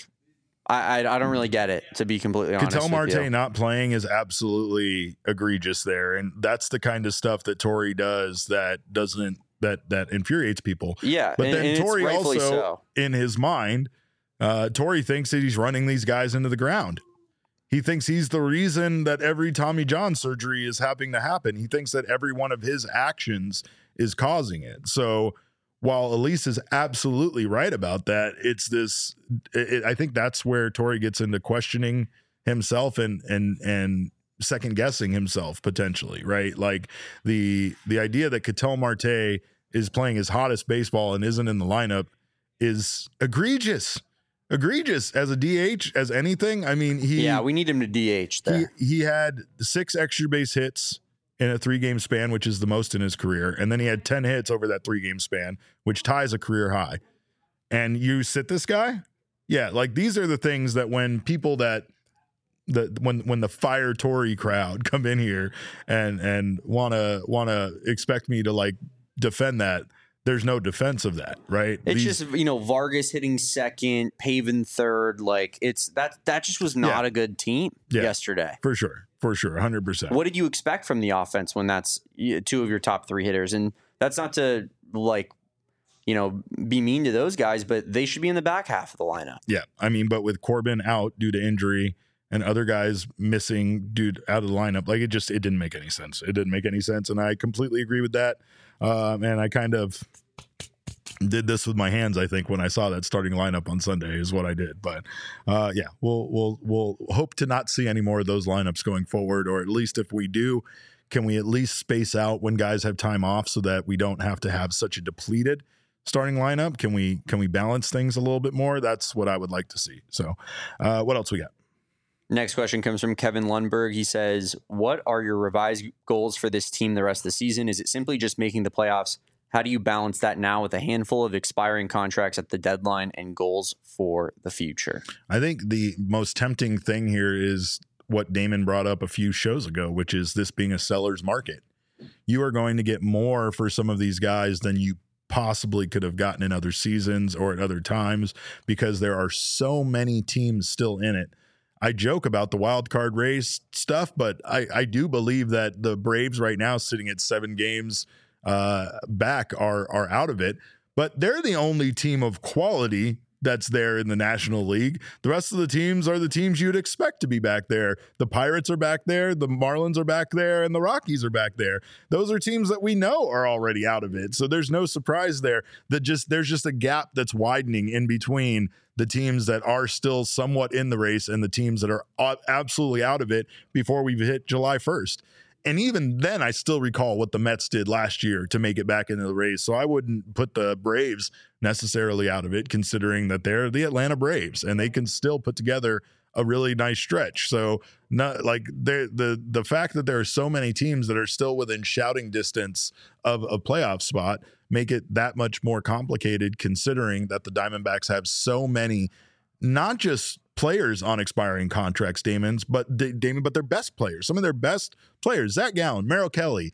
I don't really get it, to be completely honest. Ketel Marte not playing is absolutely egregious there, and that's the kind of stuff that Torey does that infuriates people. Yeah, but then Torey also, in his mind, Torey thinks that he's running these guys into the ground. He thinks he's the reason that every Tommy John surgery is having to happen. He thinks that every one of his actions is causing it. So while Elise is absolutely right about that, I think that's where Torey gets into questioning himself and second guessing himself potentially, right? Like the idea that Ketel Marte is playing his hottest baseball and isn't in the lineup is egregious as a DH, as anything. I mean, we need him to DH there. He had 6 extra base hits in a 3-game span, which is the most in his career. And then he had 10 hits over that 3-game span, which ties a career high. And you sit this guy? Yeah. These are the things that when people when the fire Torey crowd come in here and want to expect me to defend that, there's no defense of that, right? It's just, Vargas hitting second, Pavin third. That just was not a good team yesterday. For sure. 100%. What did you expect from the offense when that's 2 of your top 3 hitters? And that's not to be mean to those guys, but they should be in the back half of the lineup. Yeah. I mean, but with Corbin out due to injury and other guys missing out of the lineup, it didn't make any sense. It didn't make any sense. And I completely agree with that. And I kind of did this with my hands, I think, when I saw that starting lineup on Sunday is what I did. But we'll hope to not see any more of those lineups going forward, or at least if we do, can we at least space out when guys have time off so that we don't have to have such a depleted starting lineup? Can we balance things a little bit more? That's what I would like to see. So what else we got? Next question comes from Kevin Lundberg. He says, what are your revised goals for this team the rest of the season? Is it simply just making the playoffs? How do you balance that now with a handful of expiring contracts at the deadline and goals for the future? I think the most tempting thing here is what Damon brought up a few shows ago, which is this being a seller's market. You are going to get more for some of these guys than you possibly could have gotten in other seasons or at other times, because there are so many teams still in it. I joke about the wild card race stuff, but I do believe that the Braves right now, sitting at 7 games back, are out of it. But they're the only team of quality that's there in the National League. The rest of the teams are the teams you'd expect to be back there. The Pirates are back there, the Marlins are back there, and the Rockies are back there. Those are teams that we know are already out of it. So there's no surprise there. There's just a gap that's widening in between the teams that are still somewhat in the race and the teams that are absolutely out of it before we've hit July 1st. And even then, I still recall what the Mets did last year to make it back into the race. So I wouldn't put the Braves necessarily out of it, considering that they're the Atlanta Braves and they can still put together a really nice stretch. So not like the fact that there are so many teams that are still within shouting distance of a playoff spot make it that much more complicated, considering that the Diamondbacks have so many, not just players on expiring contracts, but their best players, some of their best players, Zach Gallen, Merrill Kelly,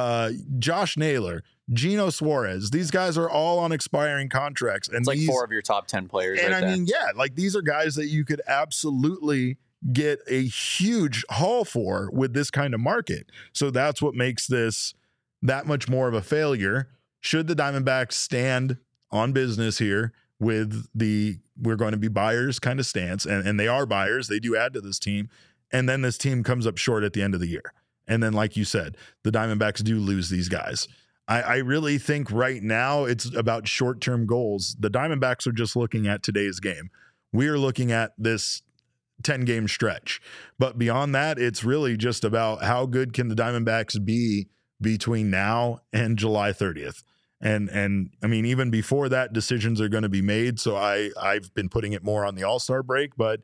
Josh Naylor, Gino Suarez. These guys are all on expiring contracts. And it's like 4 of your top 10 players. And right I mean, yeah, like these are guys that you could absolutely get a huge haul for with this kind of market. So that's what makes this that much more of a failure. Should the Diamondbacks stand on business here with the we're going to be buyers kind of stance, and they are buyers, they do add to this team, and then this team comes up short at the end of the year. And then, like you said, the Diamondbacks do lose these guys. I really think right now it's about short-term goals. The Diamondbacks are just looking at today's game. We are looking at this 10-game stretch. But beyond that, it's really just about how good can the Diamondbacks be between now and July 30th. And I mean, even before that, decisions are going to be made. So I've been putting it more on the All-Star break. But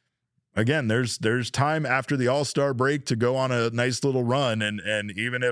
again, there's time after the All-Star break to go on a nice little run. And even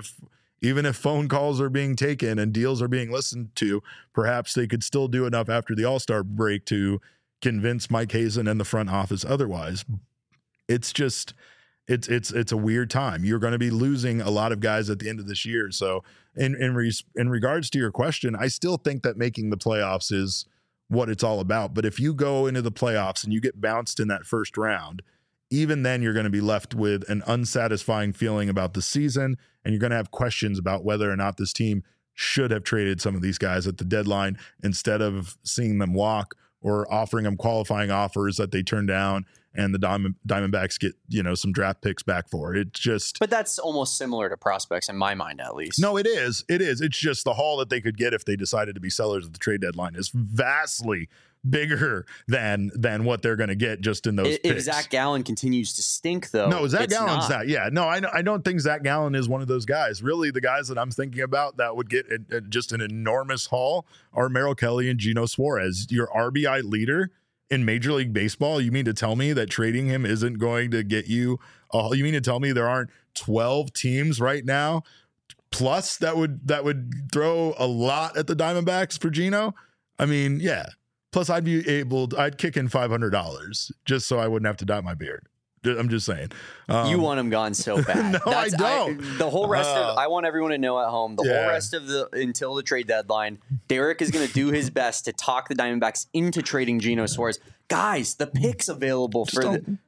if phone calls are being taken and deals are being listened to, perhaps they could still do enough after the All-Star break to convince Mike Hazen and the front office otherwise. It's just it's a weird time. You're going to be losing a lot of guys at the end of this year. So in regards to your question, I still think that making the playoffs is what it's all about. But if you go into the playoffs and you get bounced in that first round, even then you're going to be left with an unsatisfying feeling about the season, and you're going to have questions about whether or not this team should have traded some of these guys at the deadline instead of seeing them walk or offering them qualifying offers that they turn down and the Diamondbacks get, some draft picks back for. It just... But that's almost similar to prospects in my mind, at least. No, it is. It is. It's just the haul that they could get if they decided to be sellers at the trade deadline is vastly bigger than what they're going to get just in those picks. If Zach Gallen continues to stink, though, no, Zach Gallen's not. Yeah, no, I don't think Zach Gallen is one of those guys. Really, the guys that I'm thinking about that would get just an enormous haul are Merrill Kelly and Gino Suarez. Your RBI leader in Major League Baseball. You mean to tell me that trading him isn't going to get you? You mean to tell me there aren't 12 teams right now plus that would throw a lot at the Diamondbacks for Gino? I mean, yeah. Plus, I'd kick in $500 just so I wouldn't have to dye my beard. I'm just saying. You want him gone so bad. No, I don't. The whole rest of I want everyone to know at home, whole rest of until the trade deadline, Derek is going to do his best to talk the Diamondbacks into trading Gino Suarez. Guys, the picks available for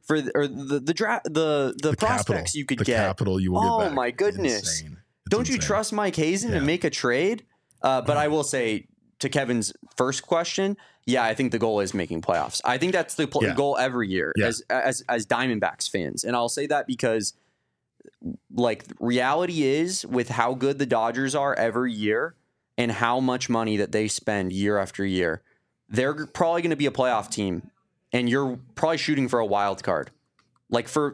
the draft, the prospects capital, you could the get. Capital you will get back. Oh my goodness! Don't you trust Mike Hazen to make a trade? But I will say, to Kevin's first question, yeah, I think the goal is making playoffs. I think that's the goal every year as Diamondbacks fans. And I'll say that because, like, reality is with how good the Dodgers are every year and how much money that they spend year after year, they're probably going to be a playoff team, and you're probably shooting for a wild card, like for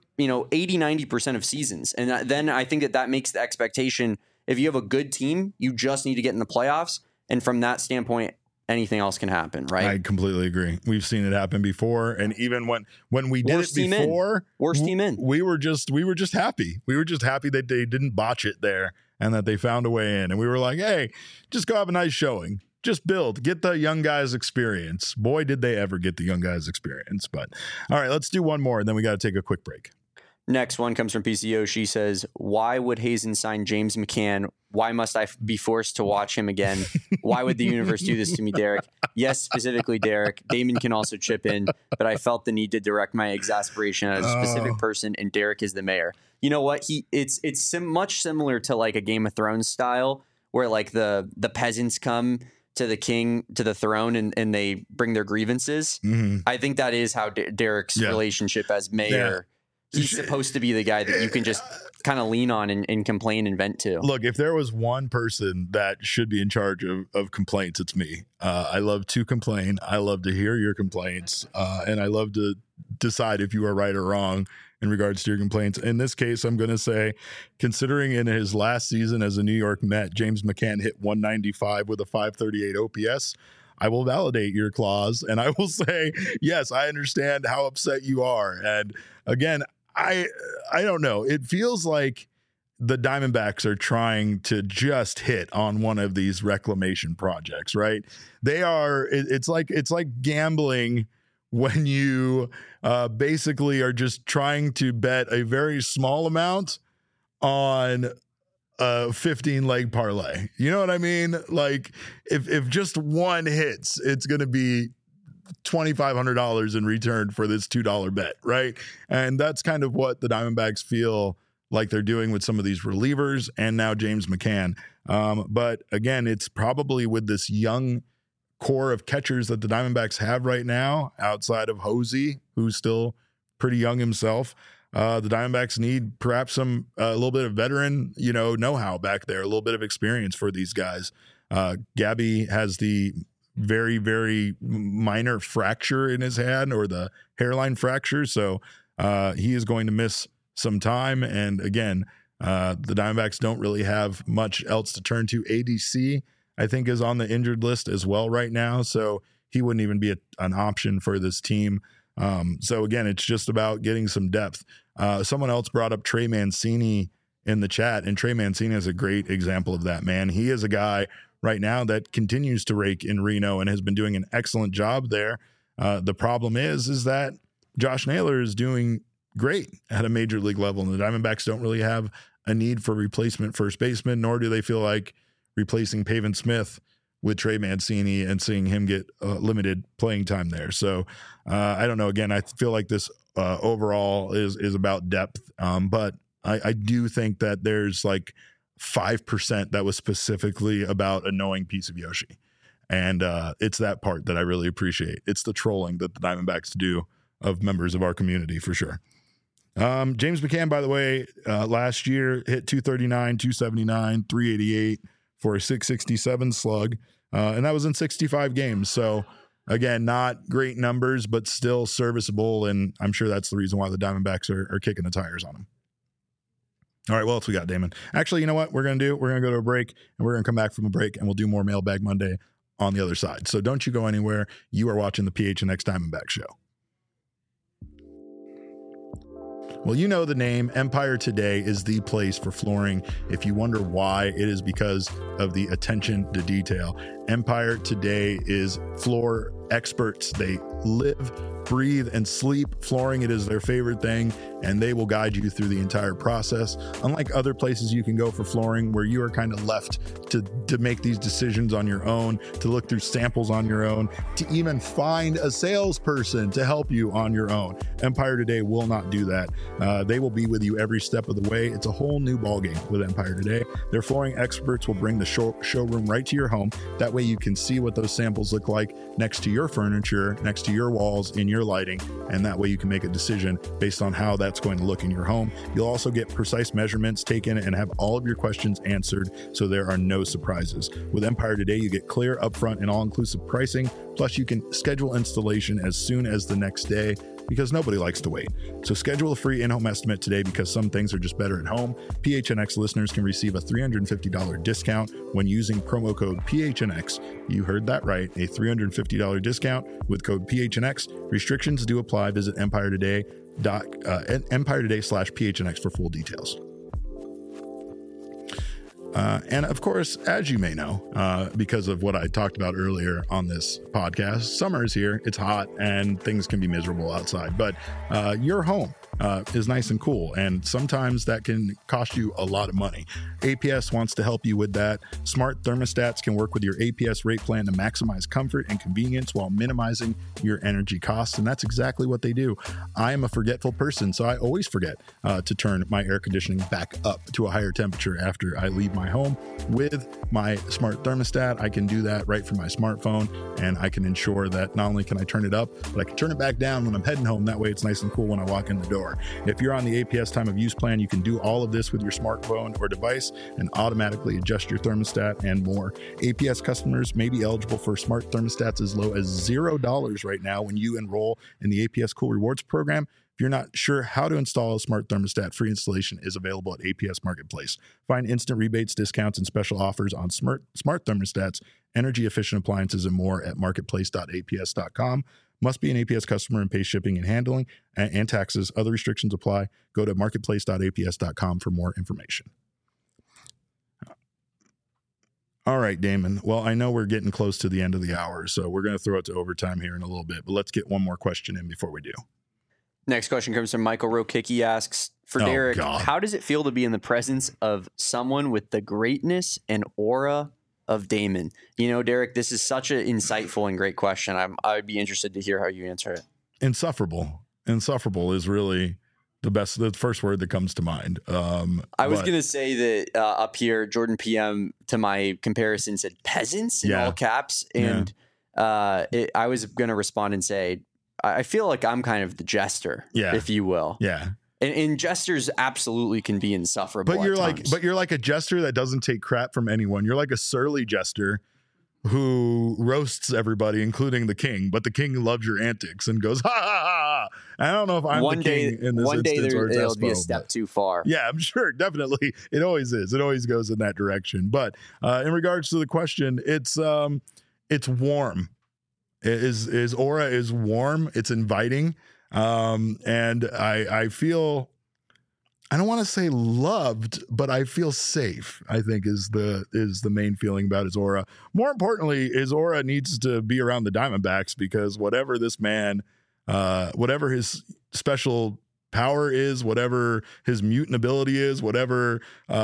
80-90% of seasons. And then I think that makes the expectation, if you have a good team, you just need to get in the playoffs. And from that standpoint, anything else can happen, right? I completely agree. We've seen it happen before, and even when we did it before, worst team in, we were just happy. We were just happy that they didn't botch it there and that they found a way in. And we were like, hey, just go have a nice showing. Just build, get the young guys experience. Boy, did they ever get the young guys experience. But all right, let's do one more, and then we got to take a quick break. Next one comes from PCO. She says, why would Hazen sign James McCann? Why must I be forced to watch him again? Why would the universe do this to me, Derek? Yes, specifically Derek. Damon can also chip in, but I felt the need to direct my exasperation at a specific person, and Derek is the mayor. You know what? It's much similar to like a Game of Thrones style, where like the peasants come to the king, to the throne, and they bring their grievances. Mm-hmm. I think that is how Derek's relationship as mayor. Yeah. He's supposed to be the guy that you can just kind of lean on and complain and vent to. Look, if there was one person that should be in charge of complaints, it's me. I love to complain. I love to hear your complaints. And I love to decide if you are right or wrong in regards to your complaints. In this case, I'm going to say, considering in his last season as a New York Met, James McCann hit 195 with a 538 OPS. I will validate your clause, and I will say, yes, I understand how upset you are. And again, I don't know. It feels like the Diamondbacks are trying to just hit on one of these reclamation projects, right? They are. It's like gambling when you basically are just trying to bet a very small amount on a 15-leg parlay. You know what I mean? Like if just one hits, it's going to be $2,500 in return for this $2 bet, right? And that's kind of what the Diamondbacks feel like they're doing with some of these relievers and now James McCann. But again, it's probably with this young core of catchers that the Diamondbacks have right now, outside of Hosey, who's still pretty young himself. The Diamondbacks need perhaps a little bit of veteran, know-how back there, a little bit of experience for these guys. Gabby has the very, very minor fracture in his hand, or the hairline fracture. So he is going to miss some time. And again, the Diamondbacks don't really have much else to turn to. ADC, I think, is on the injured list as well right now. So he wouldn't even be an option for this team. So again, it's just about getting some depth. Someone else brought up Trey Mancini in the chat, and Trey Mancini is a great example of that, man. He is a guy right now that continues to rake in Reno and has been doing an excellent job there. The problem is that Josh Naylor is doing great at a major league level, and the Diamondbacks don't really have a need for replacement first baseman, nor do they feel like replacing Pavin Smith with Trey Mancini and seeing him get limited playing time there. So I don't know. Again, I feel like this overall is about depth, but I do think that there's like 5% that was specifically about a knowing piece of Yoshi. And it's that part that I really appreciate. It's the trolling that the Diamondbacks do of members of our community, for sure. James McCann, by the way, last year hit 239, 279, 388 for a 667 slug. And that was in 65 games. So again, not great numbers, but still serviceable. And I'm sure that's the reason why the Diamondbacks are kicking the tires on him. All right, what else we got, Damon? Actually, you know what we're going to do? We're going to go to a break, and we're going to come back from a break, and we'll do more Mailbag Monday on the other side. So don't you go anywhere. You are watching the PHNX Diamondback Show. Well, you know the name. Empire Today is the place for flooring. If you wonder why, it is because of the attention to detail. Empire Today is floor experts. They live, breathe, and sleep flooring. It is their favorite thing, and they will guide you through the entire process. Unlike other places you can go for flooring where you are kind of left to make these decisions on your own, to look through samples on your own, to even find a salesperson to help you on your own. Empire Today will not do that. They will be with you every step of the way. It's a whole new ballgame with Empire Today. Their flooring experts will bring the showroom right to your home. That way you can see what those samples look like next to your furniture, next to your walls, in your lighting, and that way you can make a decision based on how that's going to look in your home. You'll also get precise measurements taken and have all of your questions answered, so there are no surprises. With Empire Today, you get clear, upfront, and all-inclusive pricing, plus you can schedule installation as soon as the next day, because nobody likes to wait. So schedule a free in-home estimate today, because some things are just better at home. PHNX listeners can receive a $350 discount when using promo code PHNX. You heard that right, a $350 discount with code PHNX. Restrictions do apply. Visit Empire Today/PHNX for full details. And of course, as you may know, because of what I talked about earlier on this podcast, summer is here. It's hot and things can be miserable outside, but your home is nice and cool. And sometimes that can cost you a lot of money. APS wants to help you with that. Smart thermostats can work with your APS rate plan to maximize comfort and convenience while minimizing your energy costs. And that's exactly what they do. I am a forgetful person, so I always forget to turn my air conditioning back up to a higher temperature after I leave my home. With my smart thermostat, I can do that right from my smartphone, and I can ensure that not only can I turn it up, but I can turn it back down when I'm heading home. That way it's nice and cool when I walk in the door. If you're on the APS time of use plan, you can do all of this with your smartphone or device and automatically adjust your thermostat and more. APS customers may be eligible for smart thermostats as low as $0 right now when you enroll in the APS Cool Rewards program. If you're not sure how to install a smart thermostat, free installation is available at APS Marketplace. Find instant rebates, discounts, and special offers on smart thermostats, energy efficient appliances, and more at marketplace.aps.com. Must be an APS customer and pay shipping and handling and taxes. Other restrictions apply. Go to marketplace.aps.com for more information. All right, Damon. Well, I know we're getting close to the end of the hour, so we're going to throw it to overtime here in a little bit, but let's get one more question in before we do. Next question comes from Michael Rokick. He asks, for Derek, how does it feel to be in the presence of someone with the greatness and aura of Damon? You know, Derek, this is such an insightful and great question. I'd be interested to hear how you answer it. Insufferable. Insufferable is really the first word that comes to mind. I was going to say that up here, Jordan PM, to my comparison, said peasants in all caps. And I was going to respond and say, I feel like I'm kind of the jester, if you will. Yeah. And jesters absolutely can be insufferable. But you're like a jester that doesn't take crap from anyone. You're like a surly jester who roasts everybody, including the king. But the king loves your antics and goes, ha ha ha. I don't know if I'm the king in this instance or it'll be a step too far. Yeah, I'm sure. Definitely. It always is. It always goes in that direction. But in regards to the question, it's warm. His aura is warm. It's inviting. And I feel, I don't want to say loved, but I feel safe, I think is the main feeling about his aura. More importantly, his aura needs to be around the Diamondbacks, because whatever this man, whatever his special power is, whatever his mutant ability is, whatever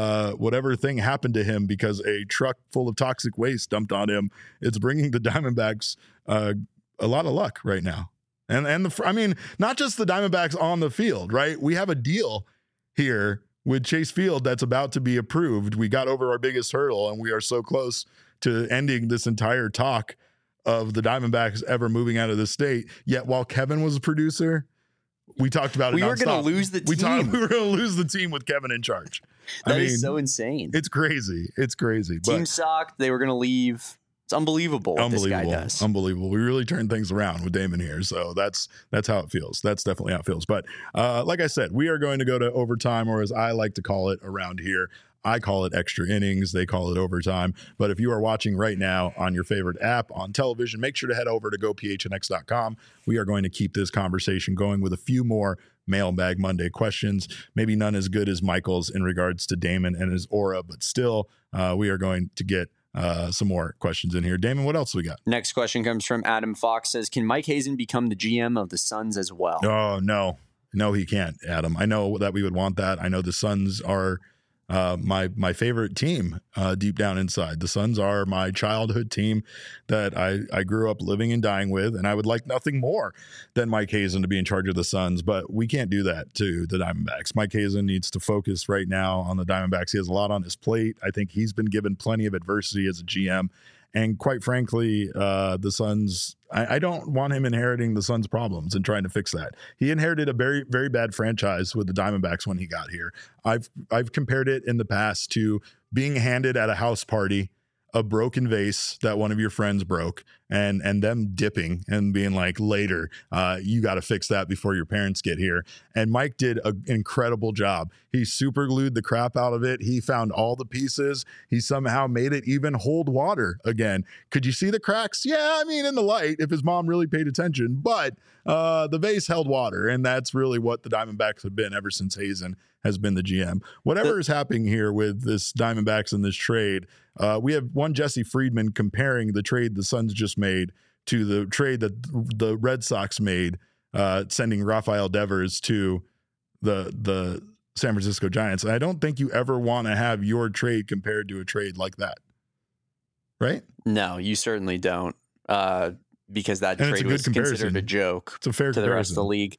thing happened to him because a truck full of toxic waste dumped on him, it's bringing the Diamondbacks a lot of luck right now. And I mean, not just the Diamondbacks on the field, right? We have a deal here with Chase Field that's about to be approved. We got over our biggest hurdle, and we are so close to ending this entire talk of the Diamondbacks ever moving out of the state. Yet while Kevin was a producer, we talked about it. We were going to lose the team. We were going to lose the team with Kevin in charge. That is so insane. It's crazy. It's crazy. Team sucked. They were going to leave. It's unbelievable what this guy does. Unbelievable. We really turned things around with Damon here. So that's how it feels. That's definitely how it feels. But like I said, we are going to go to overtime, or as I like to call it around here, I call it extra innings. They call it overtime. But if you are watching right now on your favorite app on television, make sure to head over to gophnx.com. We are going to keep this conversation going with a few more Mailbag Monday questions. Maybe none as good as Michael's in regards to Damon and his aura, but still, we are going to get some more questions in here. Damon, what else we got? Next question comes from Adam Fox. Says, can Mike Hazen become the GM of the Suns as well? Oh, no, he can't, Adam. I know that we would want that. I know the Suns are my favorite team deep down inside. The Suns are my childhood team that I grew up living and dying with, and I would like nothing more than Mike Hazen to be in charge of the Suns, but we can't do that to the Diamondbacks. Mike Hazen needs to focus right now on the Diamondbacks. He has a lot on his plate. I think he's been given plenty of adversity as a GM. And quite frankly, the Suns, I don't want him inheriting the Suns' problems and trying to fix that. He inherited a very, very bad franchise with the Diamondbacks when he got here. I've compared it in the past to being handed at a house party a broken vase that one of your friends broke, and them dipping and being like, later, you got to fix that before your parents get here. And Mike did an incredible job. He super glued the crap out of it. He found all the pieces. He somehow made it even hold water again. Could you see the cracks? Yeah, I mean, in the light, if his mom really paid attention, but the vase held water, and that's really what the Diamondbacks have been ever since Hazen has been the GM. Whatever is happening here with this Diamondbacks and this trade, we have one Jesse Friedman comparing the trade the Suns just made to the trade that the Red Sox made, sending Rafael Devers to the San Francisco Giants. I don't think you ever want to have your trade compared to a trade like that. Right? No, you certainly don't. Because that And it's a trade good was comparison. considered a joke It's a fair to the rest of the comparison. league.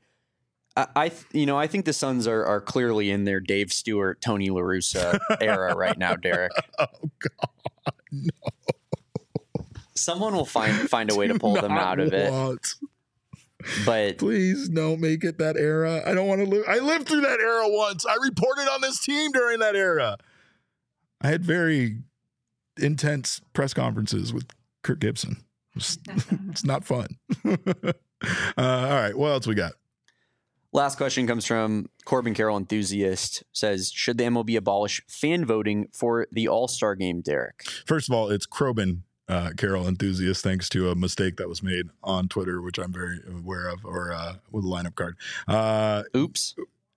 I think the Suns are clearly in their Dave Stewart, Tony La Russa era right now, Derek. Oh God. No. Someone will find a way to pull them Not out of it. what? But Please don't make it that era. I don't want to live. I lived through that era once. I reported on this team during that era. I had very intense press conferences with Kirk Gibson. It's not fun. All right. What else we got? last question comes from Corbin Carroll Enthusiast. Says, should the MLB abolish fan voting for the All-Star game, Derek? First of all, it's Corbin Carroll Enthusiast, thanks to a mistake that was made on Twitter, which I'm very aware of, or with a lineup card. Oops.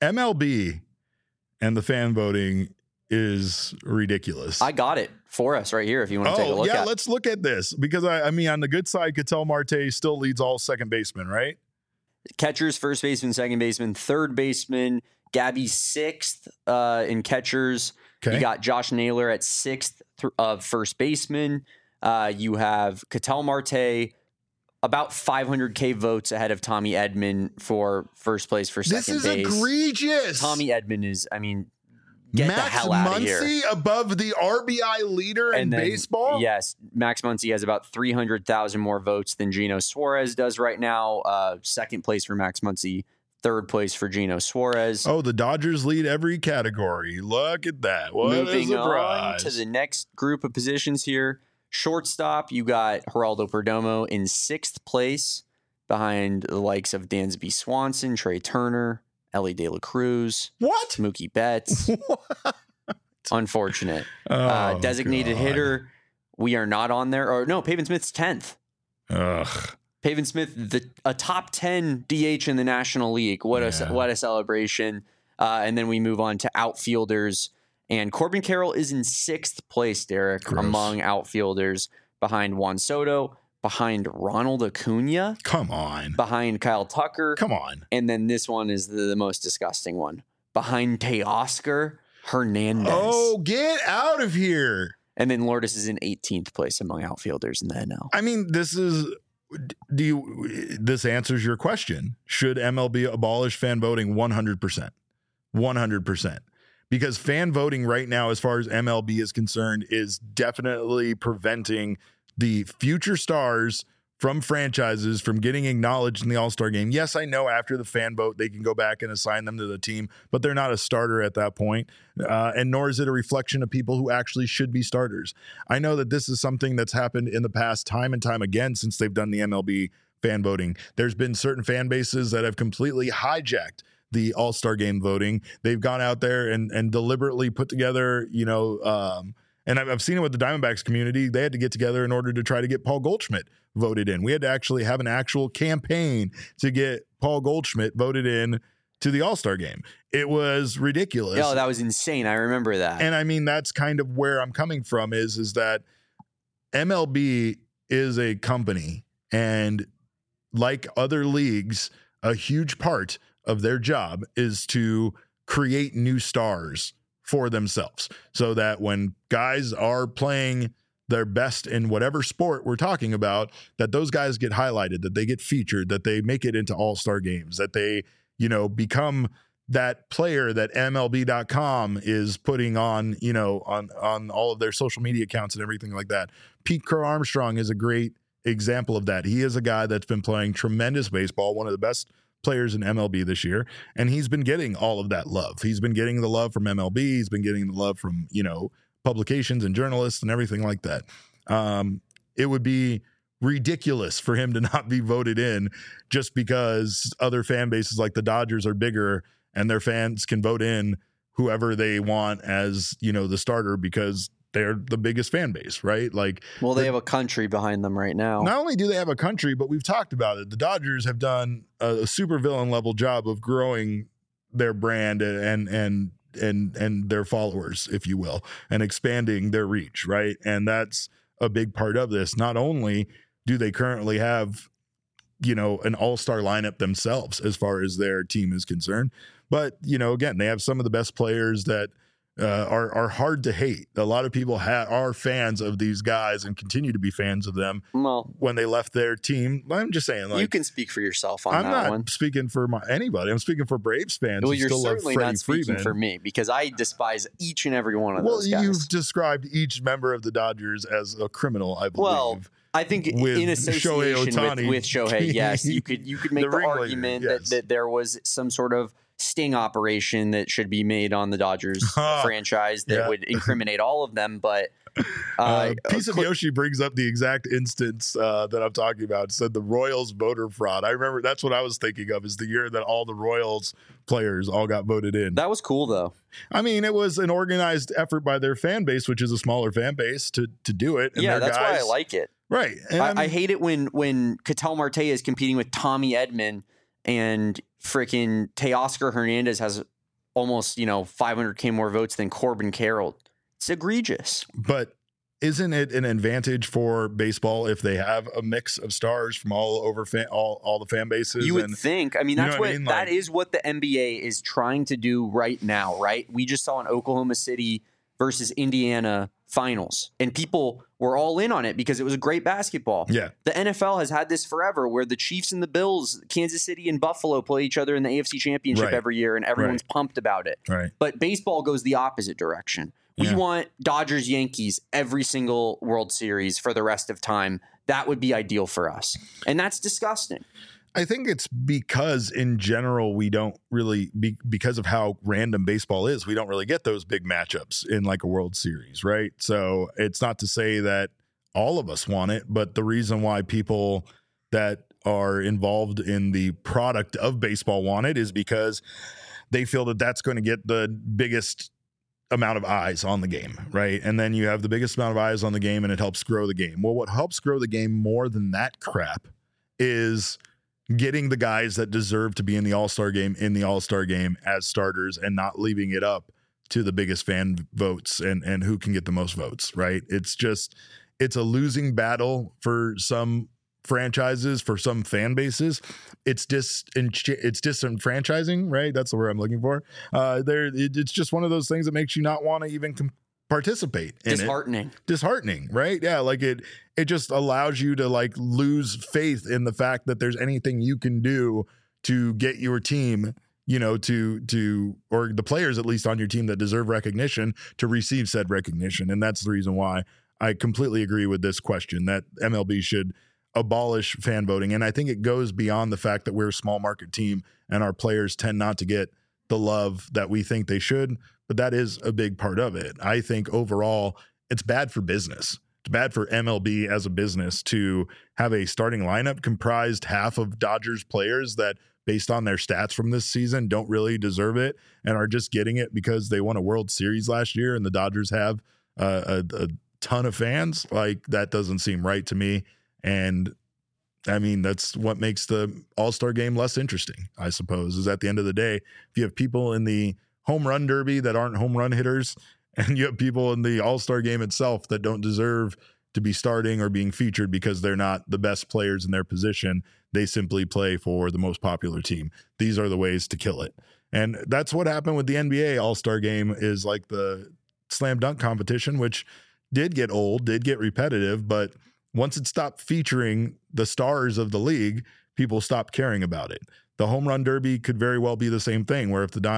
MLB and the fan voting is ridiculous. I got it for us right here if you want to take a look at it. Let's look at this, because I mean, on the good side, Ketel Marte still leads all second basemen, right? Catchers, first baseman, second baseman, third baseman. Gabby sixth in catchers. Okay. You got Josh Naylor at sixth of first baseman. You have Ketel Marte about 500K votes ahead of Tommy Edman for first place for second base. This is egregious. Tommy Edman is, I mean, get Max the hell out of here. Muncy above the RBI leader in baseball? Yes, Max Muncy has about 300,000 more votes than Gino Suarez does right now. Second place for Max Muncy, third place for Gino Suarez. Oh, the Dodgers lead every category. Look at that. What Moving a on surprise. to the next group of positions here. Shortstop, you got Geraldo Perdomo in sixth place behind the likes of Dansby Swanson, Trey Turner, Ellie De La Cruz, What? Mookie Betts. Unfortunate. Oh, Designated God. hitter, we are not on there. Or no, Pavin Smith's 10th. Ugh. Pavin Smith, a top 10 DH in the National League. What a celebration. And then we move on to outfielders. And Corbin Carroll is in sixth place, Derek, Gross. among outfielders, behind Juan Soto, behind Ronald Acuna, Come on. behind Kyle Tucker. Come on. And then this one is the most disgusting one, behind Teoscar Hernandez. Oh, get out of here. And then Lourdes is in 18th place among outfielders in the NL. I mean, this answers your question. Should MLB abolish fan voting? 100%. 100%. Because fan voting right now, as far as MLB is concerned, is definitely preventing the future stars from franchises from getting acknowledged in the All-Star game. Yes, I know after the fan vote, they can go back and assign them to the team, but they're not a starter at that point. And nor is it a reflection of people who actually should be starters. I know that this is something that's happened in the past time and time again since they've done the MLB fan voting. There's been certain fan bases that have completely hijacked the All-Star game voting. They've gone out there and deliberately put together, and I've seen it with the Diamondbacks community. They had to get together in order to try to get Paul Goldschmidt voted in. We had to actually have an actual campaign to get Paul Goldschmidt voted in to the All-Star game. It was ridiculous. Oh, that was insane. I remember that. And I mean, that's kind of where I'm coming from is that MLB is a company, and like other leagues, a huge part of their job is to create new stars for themselves, so that when guys are playing their best in whatever sport we're talking about, that those guys get highlighted, that they get featured, that they make it into all-star games, that they, become that player that MLB.com is putting on, on all of their social media accounts and everything like that. Pete Crow Armstrong is a great example of that. He is a guy that's been playing tremendous baseball, one of the best players in MLB this year, and he's been getting all of that love. He's been getting the love from MLB. He's been getting the love from, publications and journalists and everything like that. It would be ridiculous for him to not be voted in just because other fan bases like the Dodgers are bigger and their fans can vote in whoever they want as, the starter because they're the biggest fan base, right? Well, they have a country behind them right now. Not only do they have a country, but we've talked about it. The Dodgers have done a super villain level job of growing their brand and their followers, if you will, and expanding their reach, right? And that's a big part of this. Not only do they currently have an all-star lineup themselves as far as their team is concerned. But, again, they have some of the best players that are hard to hate. A lot of people are fans of these guys and continue to be fans of them when they left their team. I'm just saying, you can speak for yourself on that one. I'm not speaking for anybody. I'm speaking for Braves fans. Well, who you're still certainly love not speaking Freeman. for me, because I despise each and every one of those guys. Well, you've described each member of the Dodgers as a criminal, I believe. Well, I think in association with Shohei, yes, you could make the argument that there was some sort of sting operation that should be made on the Dodgers franchise that would incriminate all of them. But Piece of Yoshi brings up the exact instance that I'm talking about. It said the Royals voter fraud. I remember that's what I was thinking of, is the year that all the Royals players all got voted in. That was cool, though. I mean, it was an organized effort by their fan base, which is a smaller fan base, to do it. And that's why I like it. Right. I hate it when Ketel Marte is competing with Tommy Edman and freaking Teoscar Hernandez has almost, 500K more votes than Corbin Carroll. It's egregious. But isn't it an advantage for baseball if they have a mix of stars from all over all the fan bases? You would think. I mean, that is what the NBA is trying to do right now, right? We just saw an Oklahoma City versus Indiana finals, and people were all in on it because it was a great basketball. Yeah. The NFL has had this forever, where the Chiefs and the Bills, Kansas City and Buffalo play each other in the AFC Championship every year, and everyone's pumped about it. Right. But baseball goes the opposite direction. We want Dodgers Yankees every single World Series for the rest of time. That would be ideal for us. And that's disgusting. I think it's because in general, we don't really, because of how random baseball is, we don't really get those big matchups in like a World Series, right? So it's not to say that all of us want it, but the reason why people that are involved in the product of baseball want it is because they feel that that's going to get the biggest amount of eyes on the game, right? And then you have the biggest amount of eyes on the game and it helps grow the game. Well, what helps grow the game more than that crap is getting the guys that deserve to be in the All-Star game as starters and not leaving it up to the biggest fan votes and who can get the most votes, right? It's a losing battle for some franchises, for some fan bases. It's disenfranchising, right? That's the word I'm looking for. It's just one of those things that makes you not want to even participate in disheartening, right? Yeah, like it just allows you to like lose faith in the fact that there's anything you can do to get your team, to or the players at least on your team that deserve recognition to receive said recognition. And that's the reason why I completely agree with this question that MLB should abolish fan voting. And I think it goes beyond the fact that we're a small market team and our players tend not to get the love that we think they should, but that is a big part of it. I think overall it's bad for business. It's bad for MLB as a business to have a starting lineup comprised half of Dodgers players that, based on their stats from this season, don't really deserve it and are just getting it because they won a World Series last year and the Dodgers have a ton of fans. Like, that doesn't seem right to me. And I mean, that's what makes the All-Star game less interesting, I suppose, is at the end of the day, if you have people in the home run derby that aren't home run hitters, and you have people in the All-Star game itself that don't deserve to be starting or being featured because they're not the best players in their position, they simply play for the most popular team. These are the ways to kill it. And that's what happened with the NBA All-Star game, is like the slam dunk competition, which did get old, did get repetitive, but once it stopped featuring the stars of the league, people stopped caring about it. The home run derby could very well be the same thing, where if the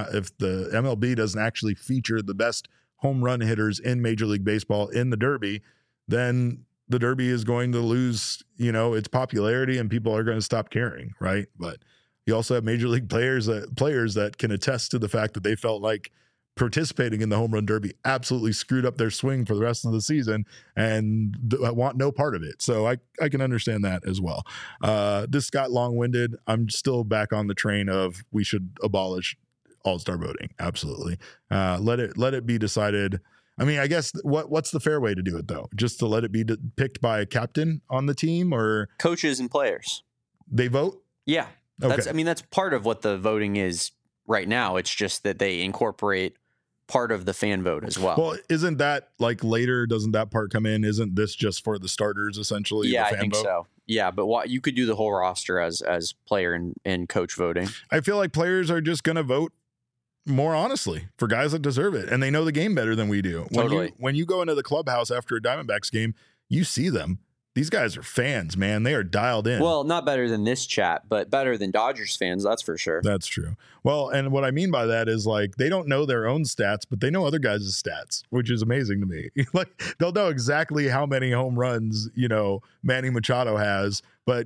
MLB doesn't actually feature the best home run hitters in Major League Baseball in the derby, then the derby is going to lose, its popularity and people are going to stop caring, right? But you also have Major League players that can attest to the fact that they felt like participating in the home run derby absolutely screwed up their swing for the rest of the season and want no part of it. So I can understand that as well. This got long-winded. I'm still back on the train of we should abolish all-star voting. Absolutely. Let it be decided. I mean, I guess what's the fair way to do it though? Just to let it be picked by a captain on the team, or coaches and players? They vote? Yeah. Okay. That's part of what the voting is right now. It's just that they incorporate part of the fan vote as well. Well, isn't that like later? Doesn't that part come in? Isn't this just for the starters essentially? Yeah, the fan I think vote? so. Yeah, but you could do the whole roster as player and coach voting. I feel like players are just going to vote more honestly for guys that deserve it, and they know the game better than we do. Totally. When you go into the clubhouse after a Diamondbacks game, you see them. These guys are fans, man. They are dialed in. Well, not better than this chat, but better than Dodgers fans, that's for sure. That's true. Well, and what I mean by that is like they don't know their own stats, but they know other guys' stats, which is amazing to me. Like they'll know exactly how many home runs, Manny Machado has, but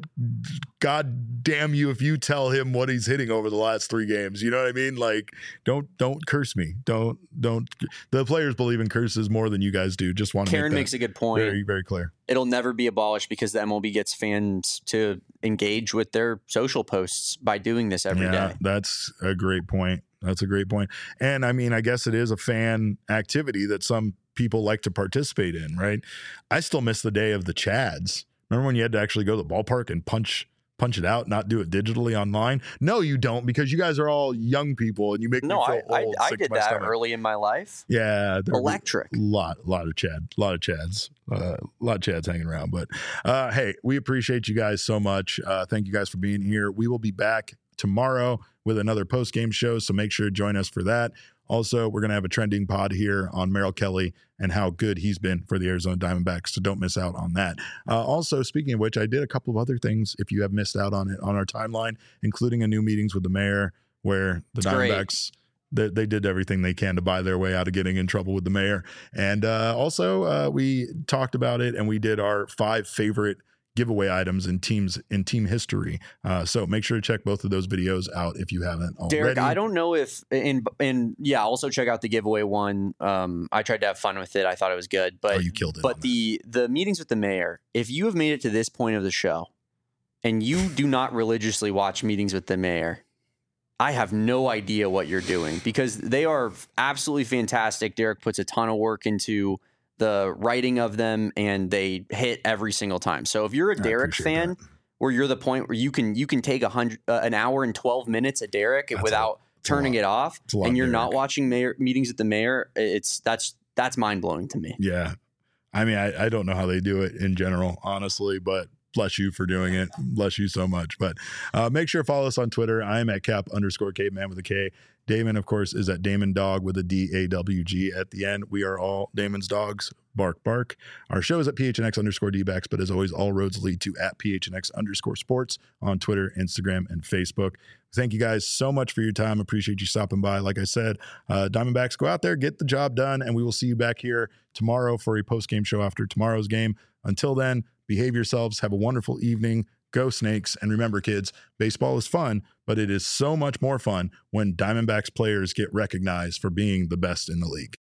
God damn you if you tell him what he's hitting over the last 3 games. You know what I mean? Like don't curse me. Don't the players believe in curses more than you guys do. Just want to Karen makes a good point. Very, very clear. It'll never be abolished because the MLB gets fans to engage with their social posts by doing this every day. That's a great point. That's a great point. And I mean, I guess it is a fan activity that some people like to participate in, right? I still miss the day of the Chads. Remember when you had to actually go to the ballpark and punch it out, not do it digitally online? No, you don't, because you guys are all young people and you make me feel old. I did that early in my life. Yeah. Electric. A lot of Chads hanging around. But hey, we appreciate you guys so much. Thank you guys for being here. We will be back tomorrow with another post-game show, so make sure to join us for that. Also, we're going to have a trending pod here on Merrill Kelly and how good he's been for the Arizona Diamondbacks, so don't miss out on that. Also, speaking of which, I did a couple of other things, if you have missed out on it, on our timeline, including a new meetings with the mayor, where the Diamondbacks, they did everything they can to buy their way out of getting in trouble with the mayor. And also, we talked about it, and we did our 5 favorite giveaway items in team history. So make sure to check both of those videos out if you haven't already. Derek, I don't know if also check out the giveaway one. I tried to have fun with it. I thought it was good, but you killed it. But the meetings with the mayor, if you have made it to this point of the show and you do not religiously watch meetings with the mayor, I have no idea what you're doing, because they are absolutely fantastic. Derek puts a ton of work into the writing of them, and they hit every single time. So if you're a Derek fan, where you're the point where you can take an hour and 12 minutes of Derek without turning it off, and you're not watching meetings with the mayor, that's mind blowing to me. Yeah, I mean, I don't know how they do it in general, honestly, but bless you for doing it. Bless you so much. But make sure to follow us on Twitter. I am at Cap_Caveman with a K. Damon, of course, is at Damon Dog with a DAWG at the end. We are all Damon's dogs. Bark, bark. Our show is at PHNX_DBacks, but as always, all roads lead to at PHNX_sports on Twitter, Instagram, and Facebook. Thank you guys so much for your time. Appreciate you stopping by. Like I said, Diamondbacks, go out there, get the job done, and we will see you back here tomorrow for a post-game show after tomorrow's game. Until then, behave yourselves. Have a wonderful evening. Go Snakes. And remember, kids, baseball is fun, but it is so much more fun when Diamondbacks players get recognized for being the best in the league.